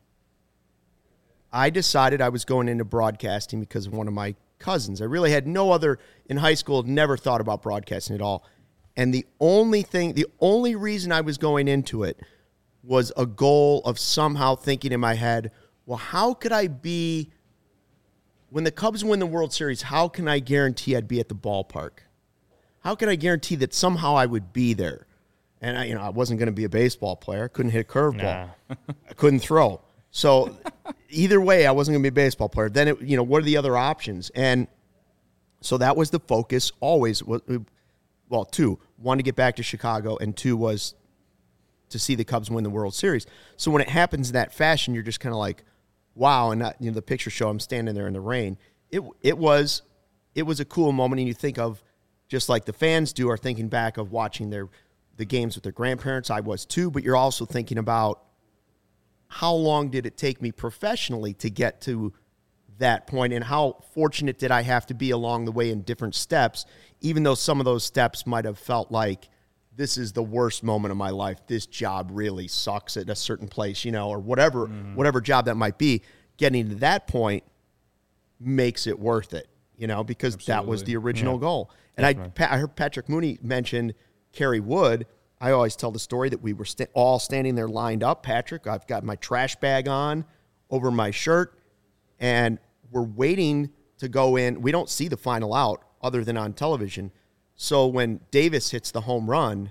I decided I was going into broadcasting because of one of my cousins. I really had no other in high school. Never thought about broadcasting at all. And the only thing, the only reason I was going into it was a goal of somehow thinking in my head, well, how could I be, when the Cubs win the World Series, how can I guarantee I'd be at the ballpark? How can I guarantee that somehow I would be there? And I, you know, I wasn't going to be a baseball player. I couldn't hit a curveball. Nah. I couldn't throw. So either way, I wasn't going to be a baseball player. Then, it, you know, what are the other options? And so that was the focus always. Well, two. One, to get back to Chicago, and two was to see the Cubs win the World Series. So when it happens in that fashion, you're just kind of like, wow. And not, you know, the picture show, I'm standing there in the rain. It it was it was a cool moment, and you think of, just like the fans do, are thinking back of watching their the games with their grandparents. I was too, but you're also thinking about how long did it take me professionally to get to that point, and how fortunate did I have to be along the way in different steps, even though some of those steps might have felt like this is the worst moment of my life. This job really sucks at a certain place, you know, or whatever, mm. whatever job that might be. Getting to that point makes it worth it, you know, because Absolutely. That was the original yeah. goal. And I, I heard Patrick Mooney mention Kerry Wood. I always tell the story that we were st- all standing there lined up. Patrick, I've got my trash bag on over my shirt, and we're waiting to go in. We don't see the final out other than on television. So when Davis hits the home run,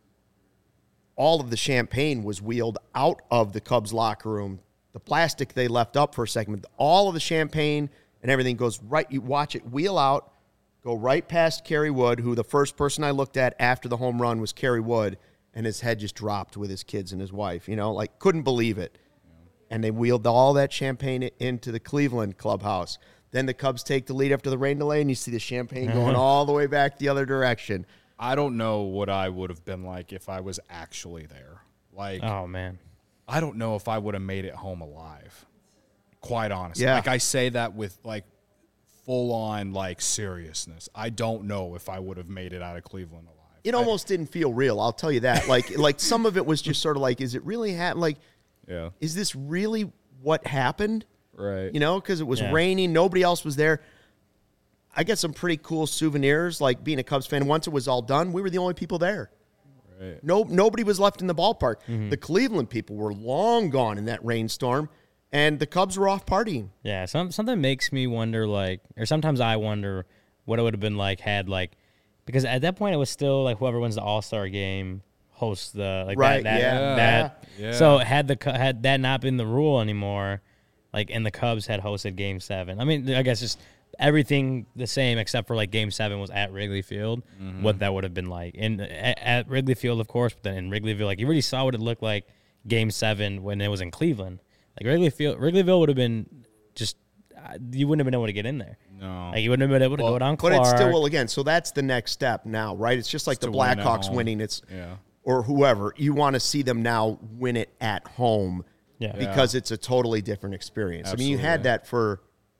all of the champagne was wheeled out of the Cubs locker room. The plastic they left up for a second, all of the champagne and everything goes right. You watch it wheel out, go right past Kerry Wood, who the first person I looked at after the home run was Kerry Wood, and his head just dropped with his kids and his wife, you know, like couldn't believe it. And they wheeled all that champagne into the Cleveland clubhouse. Then the Cubs take the lead after the rain delay, and you see the champagne going all the way back the other direction. I don't know what I would have been like if I was actually there. Like, oh, man. I don't know if I would have made it home alive, quite honestly. Yeah. Like, I say that with, like, full-on, like, seriousness. I don't know if I would have made it out of Cleveland alive. It I, almost didn't feel real, I'll tell you that. Like, like some of it was just sort of like, is it really happening? Like, yeah. is this really what happened? Right. You know, because it was yeah. raining. Nobody else was there. I got some pretty cool souvenirs, like being a Cubs fan. Once it was all done, we were the only people there. Right. No, nobody was left in the ballpark. Mm-hmm. The Cleveland people were long gone in that rainstorm, and the Cubs were off partying. Yeah, some, something makes me wonder, like, or sometimes I wonder what it would have been like had, like, because at that point it was still, like, whoever wins the All-Star game hosts the, like, right, that, that, yeah. that. Yeah. So had the had that not been the rule anymore, like, and the Cubs had hosted Game Seven. I mean, I guess just everything the same except for like Game Seven was at Wrigley Field. Mm-hmm. What that would have been like, and at, at Wrigley Field, of course, but then in Wrigleyville, like you really saw what it looked like Game Seven when it was in Cleveland. Like Wrigley Field, Wrigleyville would have been just uh, you wouldn't have been able to get in there. No, like you wouldn't have been able to well, go down. But Clark. it's still well again. So that's the next step now, right? It's just like It's the to win at Blackhawks home. winning. It's yeah. or whoever you want to see them now win it at home. Yeah. Because yeah. it's a totally different experience. Absolutely. I mean, you had that for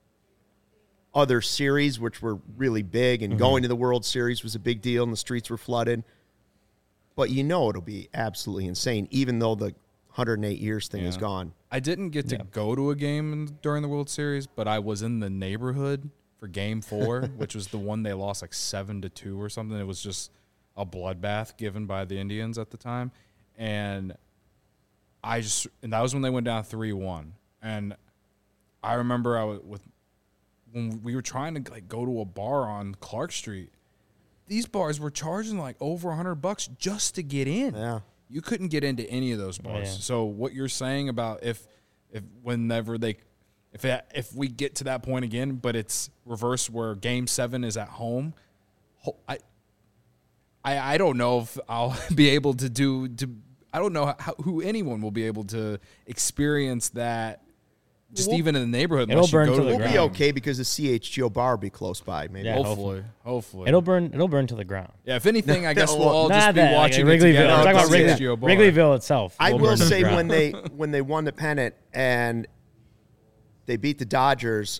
other series, which were really big, and mm-hmm. going to the World Series was a big deal, and the streets were flooded. But you know it'll be absolutely insane, even though the one hundred eight years thing yeah. is gone. I didn't get to yeah. go to a game in, during the World Series, but I was in the neighborhood for Game Four, which was the one they lost like seven to two or something. It was just a bloodbath given by the Indians at the time, and I just and that was when they went down three one. And I remember I was with when we were trying to like go to a bar on Clark Street. These bars were charging like over a hundred bucks just to get in. Yeah. You couldn't get into any of those bars. Yeah. So what you're saying about if, if whenever they, if it, if we get to that point again, but it's reverse where Game Seven is at home, I, I, I don't know if I'll be able to do. To I don't know how, who anyone will be able to experience that. Just Well, even in the neighborhood, it'll unless you burn go to to the the We'll be ground. okay because the C H G O bar will be close by. Maybe. Yeah. Hopefully, hopefully. It'll burn. It'll burn to the ground. Yeah, if anything, I guess No, we'll all Not just be that, like, watching Wrigleyville. it together. I'm No, talking about don't Wrigley, say that. Wrigleyville itself. I will will burn to the say ground. when they when they won the pennant and they beat the Dodgers,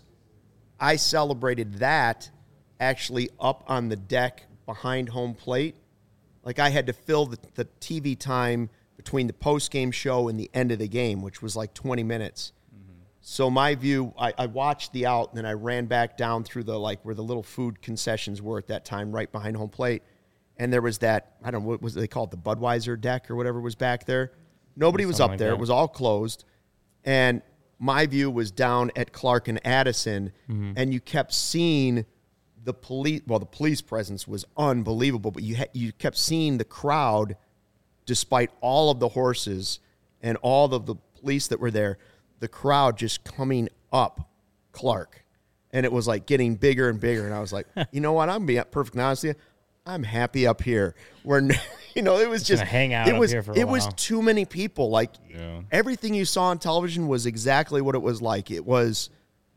I celebrated that actually up on the deck behind home plate. Like I had to fill the, the T V time between the post game show and the end of the game, which was like twenty minutes. So my view, I, I watched the out, and then I ran back down through the, like, where the little food concessions were at that time, right behind home plate. And there was that, I don't know, what was they called, the Budweiser deck or whatever was back there. Nobody was Something up like there. that. It was all closed. And my view was down at Clark and Addison, Mm-hmm. and you kept seeing the police, well, the police presence was unbelievable, but you ha- you kept seeing the crowd, despite all of the horses and all of the police that were there, the crowd just coming up Clark. And it was like getting bigger and bigger. And I was like, you know what? I'm being perfectly honest with you. I'm happy up here. Where, you know, it was just, gonna hang out it up was, here for a it was while. too many people. Like Yeah. everything you saw on television was exactly what it was like. It was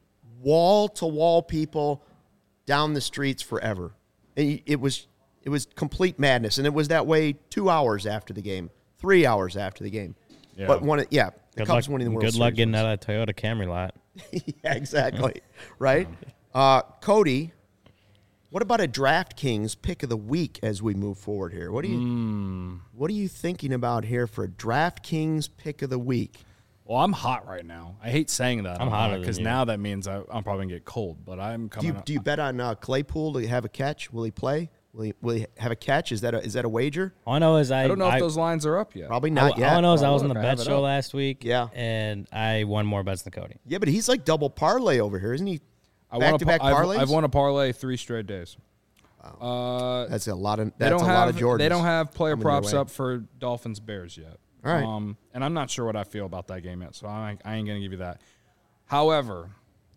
wall to wall people down the streets forever. And it was, it was complete madness. And it was that way two hours after the game, three hours after the game. Yeah. But one, yeah, the Good Cubs luck, winning the World good Series. luck getting out of that Toyota Camry lot. Yeah, exactly. Right? Uh, Cody, what about a DraftKings pick of the week as we move forward here? What are you Mm. What are you thinking about here for a DraftKings pick of the week? Well, I'm hot right now. I hate saying that. I'm hotter than because you. now that means I, I'm probably gonna get cold. But I'm Do coming. you up. do you bet on uh, Claypool to have a catch? Will he play? Will he will he have a catch? Is that a, is that a wager? All I know is I, I don't know I, if those lines are up yet. Probably I- not all yet. I know is I Well, was on the look, I have bet it show up. last week. Yeah. And I won more bets than Cody. Yeah, but he's like double parlay over here, isn't he? I won a Back to back par- I've, parlays. I've won a parlay three straight days. Uh, That's a lot of they that's don't a have lot of Jordans. they don't have player coming your props way. up for Dolphins Bears yet. All right. Um, and I'm not sure what I feel about that game yet, so I, I ain't gonna give you that. However,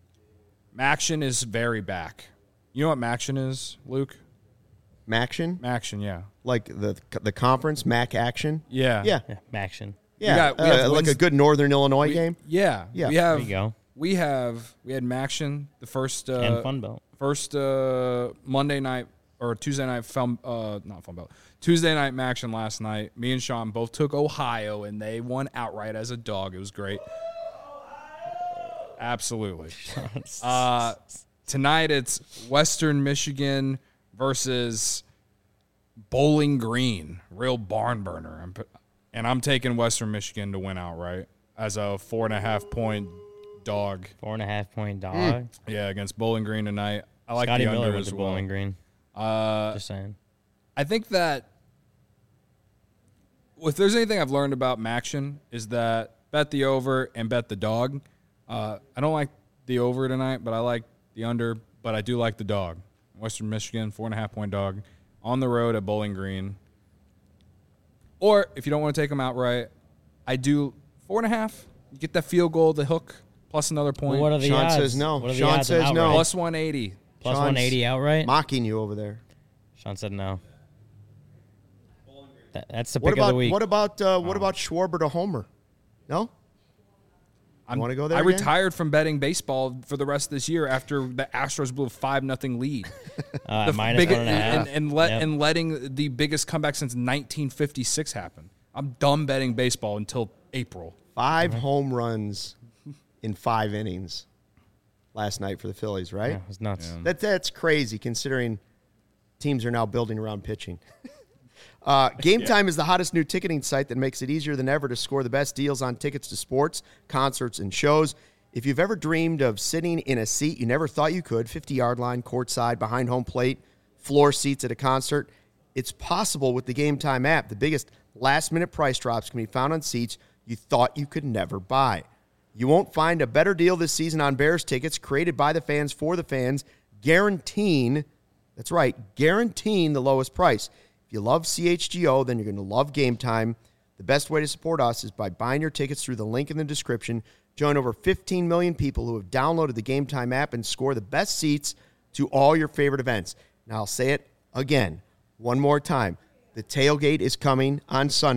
Maction is very back. You know what Maction is, Luke? Maction, Maction, yeah, like the the conference Mac Action. yeah, Yeah, Yeah, Maction. yeah, got- we uh, have like a wins- good Northern Illinois We- game. yeah, Yeah. We have There you go. we have we had Maction the first uh, and Fun Belt. First uh, Monday night or Tuesday night, fun, uh, not fun belt. Tuesday night Maction last night. Me and Sean both took Ohio, and they won outright as a dog. It was great. Absolutely. Uh, tonight it's Western Michigan versus Bowling Green. Real barn burner. I'm, pu- and I'm taking Western Michigan to win outright as a four and a half point dog. Four and a half point dog. Yeah, against Bowling Green tonight. I like Scotty the Miller under with as the well. Bowling Green. Uh, Just saying. I think that if there's anything I've learned about Maction is that bet the over and bet the dog. Uh, I don't like the over tonight, but I like the under, but I do like the dog. Western Michigan, four and a half point dog on the road at Bowling Green. Or if you don't want to take them outright, I do four and a half. You get that field goal, the hook, plus another point. Well, what are the Sean odds? says no. What are the Sean odds of says no. outright? Plus one eighty. Plus Sean's one eighty outright? Mocking you over there. Sean said no. That, that's the pick What of about the week. what about uh, what about Schwarber to Homer? No. I'm- wanna go there I again? retired from betting baseball for the rest of this year after the Astros blew a five nothing lead. uh, The minus big- one and a half. and, and, let, Yep. and letting the biggest comeback since nineteen fifty-six happen. I'm done betting baseball until April. Five Mm-hmm. home runs in five innings last night for the Phillies, right? Yeah, it was nuts. That that's crazy considering teams are now building around pitching. Uh, Game Time is the hottest new ticketing site that makes it easier than ever to score the best deals on tickets to sports, concerts, and shows. If you've ever dreamed of sitting in a seat you never thought you could, fifty-yard line, courtside, behind home plate, floor seats at a concert, it's possible with the Game Time app. The biggest last-minute price drops can be found on seats you thought you could never buy. You won't find a better deal this season on Bears tickets created by the fans for the fans, guaranteeing, that's right, guaranteeing the lowest price. If you love C H G O, then you're going to love Game Time. The best way to support us is by buying your tickets through the link in the description. Join over fifteen million people who have downloaded the Game Time app and score the best seats to all your favorite events. Now, I'll say it again, one more time. The tailgate is coming on Sunday.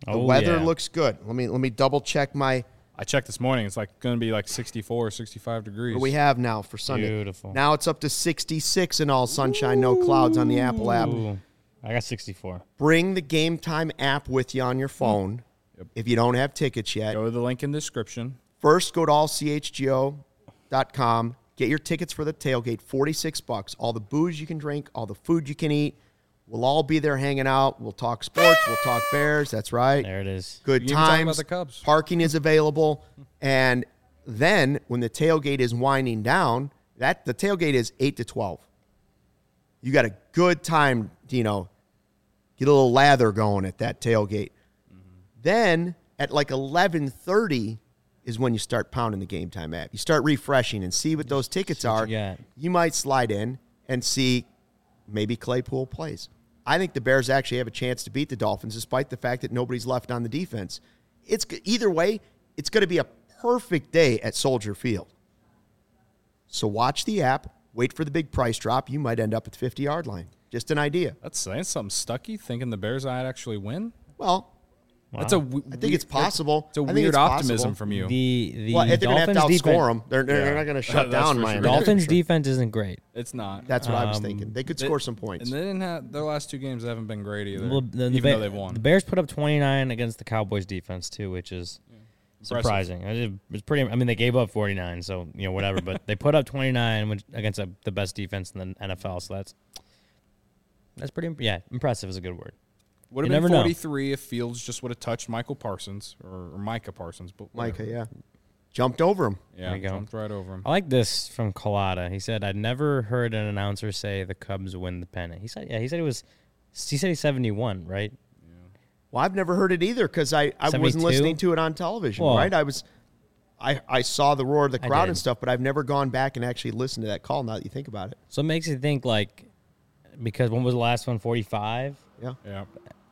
The Oh, weather yeah. looks good. Let me let me double check my I checked this morning. It's like going to be like sixty-four or sixty-five degrees. what do we have now for Sunday. Beautiful. Now it's up to sixty-six and all sunshine, no clouds on the Apple app. Ooh, I got sixty-four. Bring the Game Time app with you on your phone Yep. if you don't have tickets yet. Go to the link in the description. First, go to all c h g o dot com. Get your tickets for the tailgate, forty-six bucks. All the booze you can drink, all the food you can eat. We'll all be there hanging out. We'll talk sports. We'll talk Bears. That's right. There it is. Good You can even talk times. about the Cubs. Parking is available. And then when the tailgate is winding down, that the tailgate is eight to twelve. You got a good time, you know, get a little lather going at that tailgate. Then at like eleven thirty is when you start pounding the Game Time app. You start refreshing and see what those tickets See what are. you got. You might slide in and see maybe Claypool plays. I think the Bears actually have a chance to beat the Dolphins despite the fact that nobody's left on the defense. It's either way, it's going to be a perfect day at Soldier Field. So watch the app, wait for the big price drop. You might end up at the fifty-yard line. Just an idea. That's saying something. Stucky thinking the Bears might actually win. Well, That's a. w- I think it's possible. It's a I think weird it's optimism possible. from you. The the Well, they're going to have to Dolphins outscore defense, them. They're, they're Yeah. not going to shut That's down for sure. Miami. Dolphins defense isn't great. It's not. That's what I was Um, thinking. They could They- score some points. And they didn't have their last two games. Haven't been great either. Well, the, the even Ba- though they've won. The Bears put up twenty-nine against the Cowboys defense too, which is Impressive. surprising. It was pretty. I mean, they gave up forty-nine, so you know whatever. But they put up twenty-nine which, against a, the best defense in the N F L. So that's that's pretty. Yeah, impressive is a good word. Would You have never been know. forty-three if Fields just would have touched Michael Parsons or, or Micah Parsons. But Micah, whatever. yeah. Jumped over him. yeah, There you go. jumped right over him. I like this from Collada. He said, "I'd never heard an announcer say the Cubs win the pennant." He said, "Yeah." He said it was. He said he's seventy-one, right? Well, I've never heard it either because I, I wasn't seventy-two? listening to it on television, Well, right? I was, I, I saw the roar of the I crowd did. and stuff, but I've never gone back and actually listened to that call now that you think about it. So it makes you think like, because when was the last one? forty-five. Yeah. Yeah.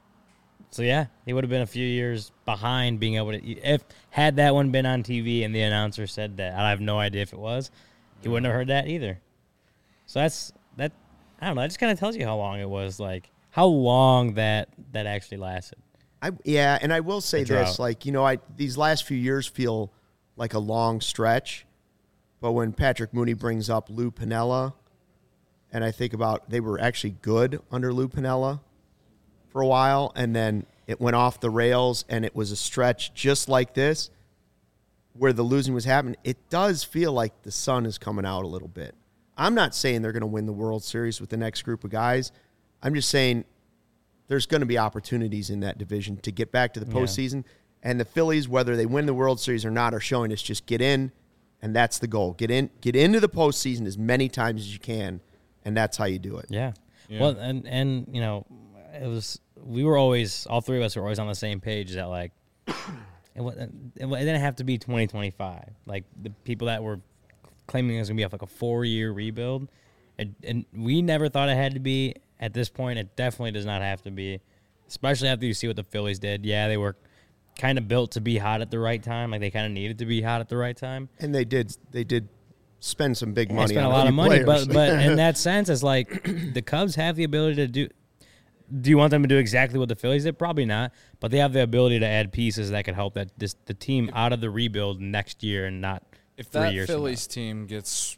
So yeah, he would have been a few years behind being able to. If had that one been on T V and the announcer said that, I have no idea if it was, he wouldn't have heard that either. So that's that. I don't know. That just kind of tells you how long it was, like how long that that actually lasted. I yeah, and I will say The this, drought. like, you know, I these last few years feel like a long stretch, but when Patrick Mooney brings up Lou Piniella, and I think about they were actually good under Lou Piniella for a while, and then it went off the rails, and it was a stretch just like this, where the losing was happening. It does feel like the sun is coming out a little bit. I'm not saying they're going to win the World Series with the next group of guys. I'm just saying there's going to be opportunities in that division to get back to the postseason. And the Phillies, whether they win the World Series or not, are showing us just get in, and that's the goal. Get in, get into the postseason as many times as you can, and that's how you do it. Yeah. Yeah. Well, and and you know, it was we were always all three of us were always on the same page that like it, wa- it, wa- it didn't have to be twenty twenty-five. Like the people that were claiming it was gonna be like a four year rebuild, and, and we never thought it had to be. At this point, it definitely does not have to be, especially after you see what the Phillies did. Yeah, they were kind of built to be hot at the right time. Like they kind of needed to be hot at the right time. And they did, they did spend some big They money. spent on a lot few of money, players. but but in that sense, it's like the Cubs have the ability to do. Do you want them to do exactly what the Phillies did? Probably not, but they have the ability to add pieces that could help that this the team out of the rebuild next year and not If three that years from now. Phillies team gets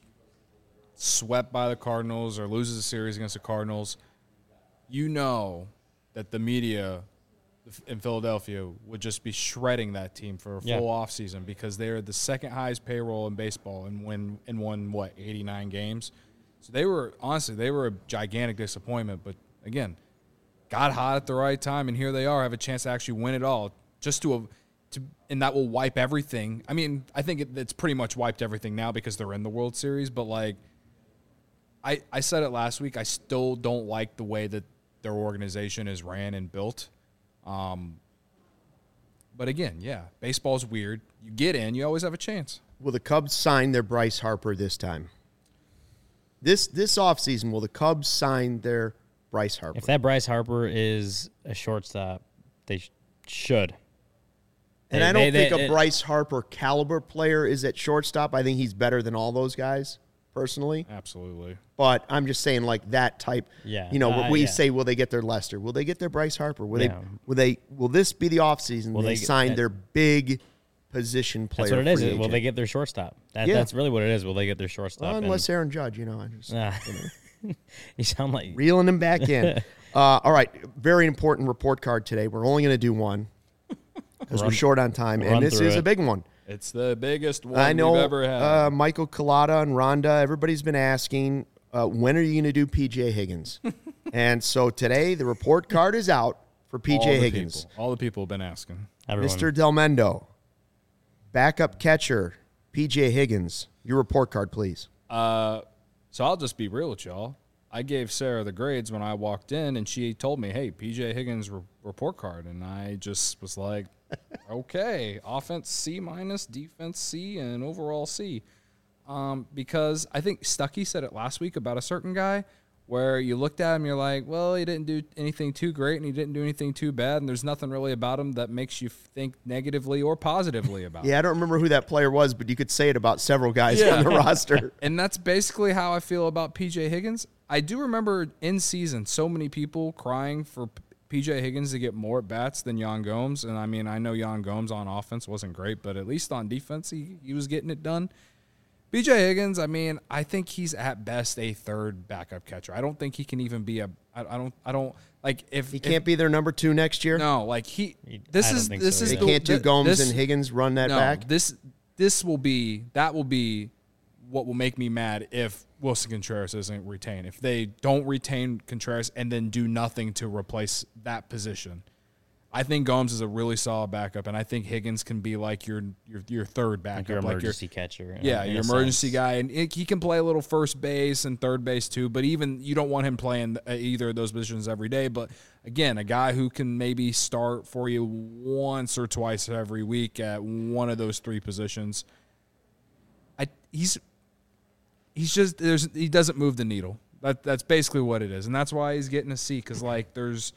swept by the Cardinals or loses a series against the Cardinals, you know that the media in Philadelphia would just be shredding that team for a full Yeah. offseason because they are the second highest payroll in baseball and win and won what eighty-nine games. So they were honestly they were a gigantic disappointment, but again, got hot at the right time, and here they are, have a chance to actually win it all. Just to, a, to and that will wipe everything. I mean, I think it, it's pretty much wiped everything now because they're in the World Series. But like, I I said it last week, I still don't like the way that their organization is ran and built. Um, but again, yeah, baseball's weird. You get in, you always have a chance. Will the Cubs sign their Bryce Harper this time? This this offseason, will the Cubs sign their Bryce Harper? If that Bryce Harper is a shortstop, they sh- should. and They- I don't they- think they- a it- Bryce Harper caliber player is at shortstop. I think he's better than all those guys. personally. Absolutely. But I'm just saying, like, that type. Yeah. You know, Uh, we yeah. say, will they get their Lester? Will they get their Bryce Harper? Will Yeah. they? Will they? Will this be the offseason? Will They, they get- sign that- their big position player. That's what it is. free Will agent. they get their shortstop? That, Yeah. That's really what it is. Will they get their shortstop? Well, And- unless Aaron Judge, you know, I just Ah. you know, you sound like reeling him back in. uh, all right, very important report card today. We're only going to do one because we're Run- short on time, run and this through is a it. big one. It's the biggest one I know we've ever had. uh, Michael Collada and Rhonda, everybody's been asking, uh, when are you going to do P J Higgins? And so today, the report card is out for P J All the Higgins. people- All the people have been asking. everyone. Mister Del Mendo, backup catcher, P J Higgins. Your report card, please. Uh, so I'll just be real with y'all. I gave Sarah the grades when I walked in, and she told me, hey, P J Higgins re- report card. And I just was like, okay, offense C minus, defense C, and overall C. Um, because I think Stuckey said it last week about a certain guy where you looked at him, you're like, well, he didn't do anything too great, and he didn't do anything too bad, and there's nothing really about him that makes you think negatively or positively about him. Yeah, I don't remember who that player was, but you could say it about several guys Yeah. on the roster. And that's basically how I feel about P J Higgins. I do remember in season so many people crying for P- P.J. Higgins to get more at bats than Yan Gomes. And I mean, I know Yan Gomes on offense wasn't great, but at least on defense, he, he was getting it done. P J Higgins, I mean, I think he's at best a third backup catcher. I don't think he can even be a. I, I don't. I don't like if He if- can't be their number two next year. No, like he. He- This I don't is think this so is They either. the, can't do thi- Gomes this- and Higgins run that no, back. This this will be that will be what will make me mad if Wilson Contreras isn't retained. If they don't retain Contreras and then do nothing to replace that position. I think Gomes is a really solid backup, and I think Higgins can be like your your your third backup, like your like emergency catcher. in- yeah, in your a emergency sense. guy, and it, he can play a little first base and third base too. But even you don't want him playing uh, either of those positions every day. But again, a guy who can maybe start for you once or twice every week at one of those three positions. I he's he's just there's he doesn't move the needle. That that's basically what it is, and that's why he's getting a C because like there's.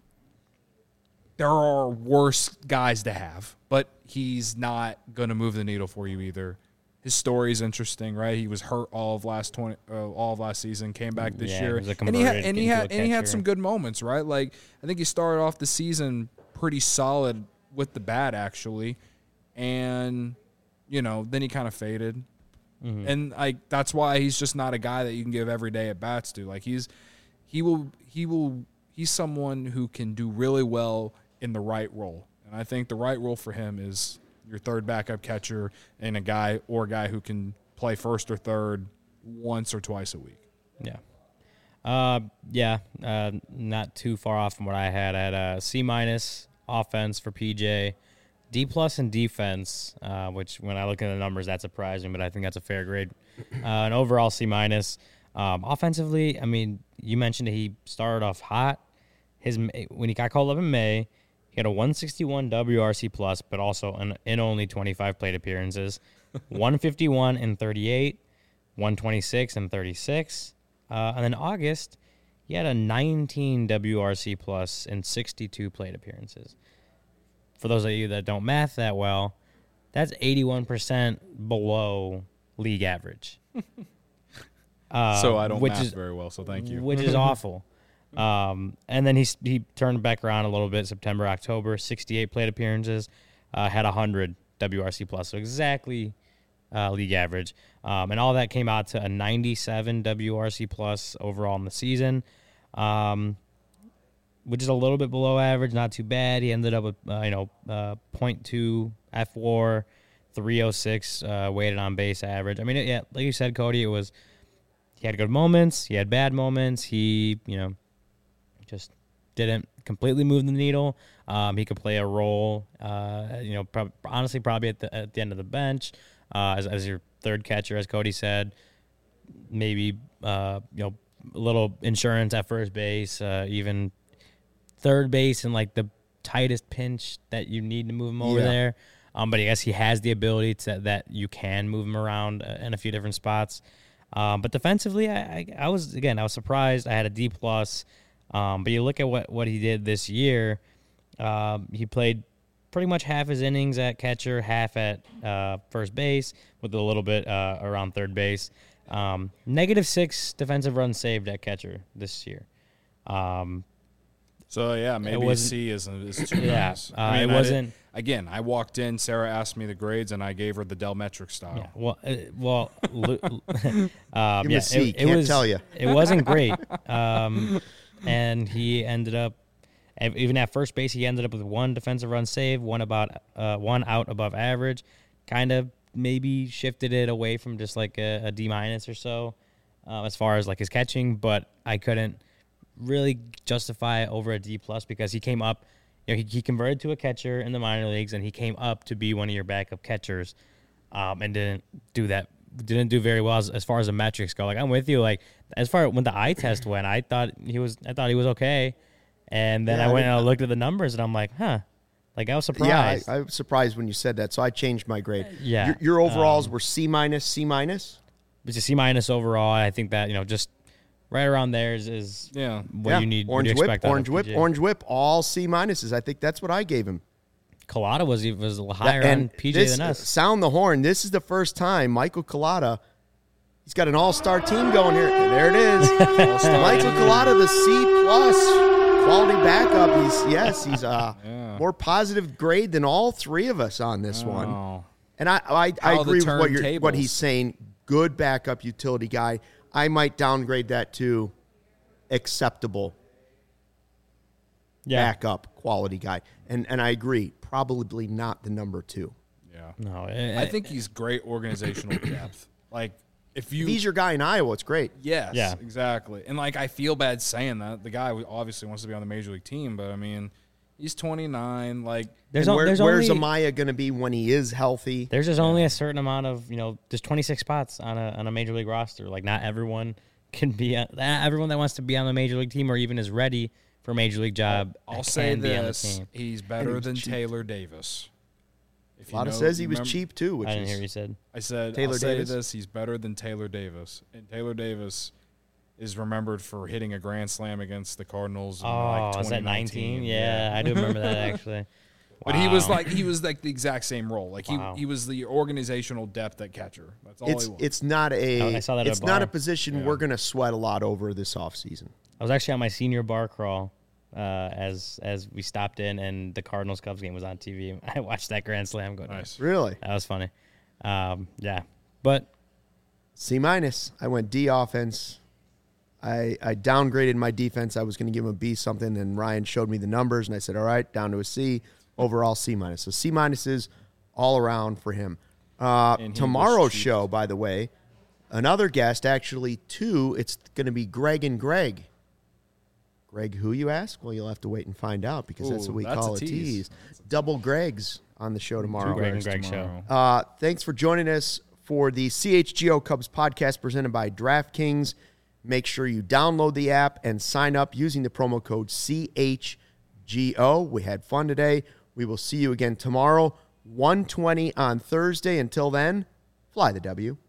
There are worse guys to have, but he's not going to move the needle for you either. His story is interesting, right? He was hurt all of last twenty, uh, all of last season, came back this Yeah, year, he was a and he had converted and he into had a and he had catcher. some good moments, right? Like I think he started off the season pretty solid with the bat, actually, and you know then he kind of faded, Mm-hmm. and like that's why he's just not a guy that you can give every day at bats to. Like he's he will he will he's someone who can do really well in the right role. And I think the right role for him is your third backup catcher and a guy or a guy who can play first or third once or twice a week. Yeah. Uh, yeah. Uh, not too far off from what I had. I had a C minus offense for P J, D plus in defense, uh, which when I look at the numbers, that surprised me, but I think that's a fair grade. Uh, an overall C minus. Um, offensively, I mean, you mentioned that he started off hot. His when he got called up in May, he had a one sixty-one W R C plus, but also in, in only twenty-five plate appearances, one fifty-one and thirty-eight, one twenty-six and thirty-six. Uh, and then August, he had a nineteen W R C plus and sixty-two plate appearances. For those of you that don't math that well, that's eighty-one percent below league average. Uh, so I don't which math is, very well, so thank you. Which is awful. Um, and then he he turned back around a little bit September, October, sixty-eight plate appearances, uh, had one hundred W R C plus, so exactly uh, league average. Um, and all that came out to a ninety-seven W R C plus overall in the season, um, which is a little bit below average, not too bad. He ended up with, uh, you know, uh, point two F WAR, three oh six uh, weighted on base average. I mean, it, yeah, like you said, Cody, it was, he had good moments, he had bad moments, he, you know, just didn't completely move the needle. Um, he could play a role, uh, you know, prob- honestly, probably at the at the end of the bench uh, as, as your third catcher, as Cody said. Maybe uh, you know, a little insurance at first base, uh, even third base in like the tightest pinch that you need to move him over Yeah. there. Um, but I guess he has the ability to that you can move him around uh, in a few different spots. Um, but defensively, I, I, I was again I was surprised. I had a D plus. Um, but you look at what, what he did this year, um, he played pretty much half his innings at catcher, half at uh, first base, with a little bit uh, around third base. Um, negative six defensive runs saved at catcher this year. Um, So yeah, maybe a wasn't- C is, is too Yeah, nice. uh, I it mean, I wasn't- did- again, I walked in. Sarah asked me the grades, and I gave her the Delmetric style. yeah, well, uh, well, lu- um, Give him yeah, a C, it, it can't was, tell ya. It wasn't great. Um, and he ended up, ev- even at first base, he ended up with one defensive run save, one about uh, one out above average. Kind of maybe shifted it away from just like a, a D minus or so, uh, as far as like his catching. But I couldn't really justify over a D plus because he came up. You know, he, he converted to a catcher in the minor leagues, and he came up to be one of your backup catchers, um, and didn't do that. Didn't do very well as, as far as the metrics go. Like I'm with you. Like as far when the eye test went, I thought he was. I thought he was okay, and then Yeah, I I went didn't- and I looked at the numbers, and I'm like, huh. Like I was Yeah, I, surprised. I was surprised when you said that, so I changed my grade. Yeah, Your, your overalls um, were C minus, C minus? It's a C minus overall. I think that you know just right around there is, is Yeah. what Yeah. you need. what Orange you whip, expect out of orange whip, P J. orange whip, all C minuses. I think that's what I gave him. Colada was even was higher on and P J this, than us. Sound the horn. This is the first time Michael Collada, he's got an all-star team going here. There it is. Michael Collada, the C plus quality backup. He's yes, he's uh Yeah. more positive grade than all three of us on this one. Oh. And I I, I How the agree with what you're what turntables. he's saying. Good backup utility guy. I might downgrade that to acceptable Yeah, backup quality guy. And and I agree, probably not the number two. Yeah. no, it, I think he's great organizational depth. Like if you If he's your guy in Iowa, it's great. Yes, Yeah. exactly. And like I feel bad saying that. The guy obviously wants to be on the major league team, but I mean, he's twenty-nine. Like there's, And o- where- there's where's only Amaya going to be when he is healthy? there's just only a certain amount of you know there's twenty-six spots on a on a major league roster. Like not everyone can be on, not everyone that wants to be on the major league team or even is ready for a major league job. I'll can say be on the this: team. he's better he's than cheap. Taylor Davis. If A lot you of know- says he was remember- cheap too, which I didn't is hear what you said. I said Taylor I'll say Davis? this: he's better than Taylor Davis, and Taylor Davis is remembered for hitting a grand slam against the Cardinals. In Oh, like was that twenty nineteen? nineteen. Yeah, I do remember that actually. But he was Wow. like he was like the exact same role. Like he, Wow. he was the organizational depth at catcher. That's all it's he was. it's not a Oh, I saw that at it's a not a bar. position Yeah. we're going to sweat a lot over this offseason. I was actually on my senior bar crawl uh, as as we stopped in, and the Cardinals Cubs game was on T V. I watched that grand slam go down. Nice. Really? That was funny. Um, yeah, but C minus. I went D offense. I I downgraded my defense. I was going to give him a B something, and Ryan showed me the numbers, and I said, all right, down to a C. Overall C minus. So C minuses all around for him. Uh, And he tomorrow's was cheap. show, by the way, another guest, actually two. It's going to be Greg and Greg. Greg, who you ask? Well, you'll have to wait and find out because that's Ooh, what we that's call a a tease. tease. Double Gregs on the show tomorrow. Greg and Gregs Greg show. tomorrow. Uh, thanks for joining us for the C H G O Cubs podcast presented by DraftKings. Make sure you download the app and sign up using the promo code C H G O. We had fun today. We will see you again tomorrow, one twenty on Thursday. Until then, fly the W.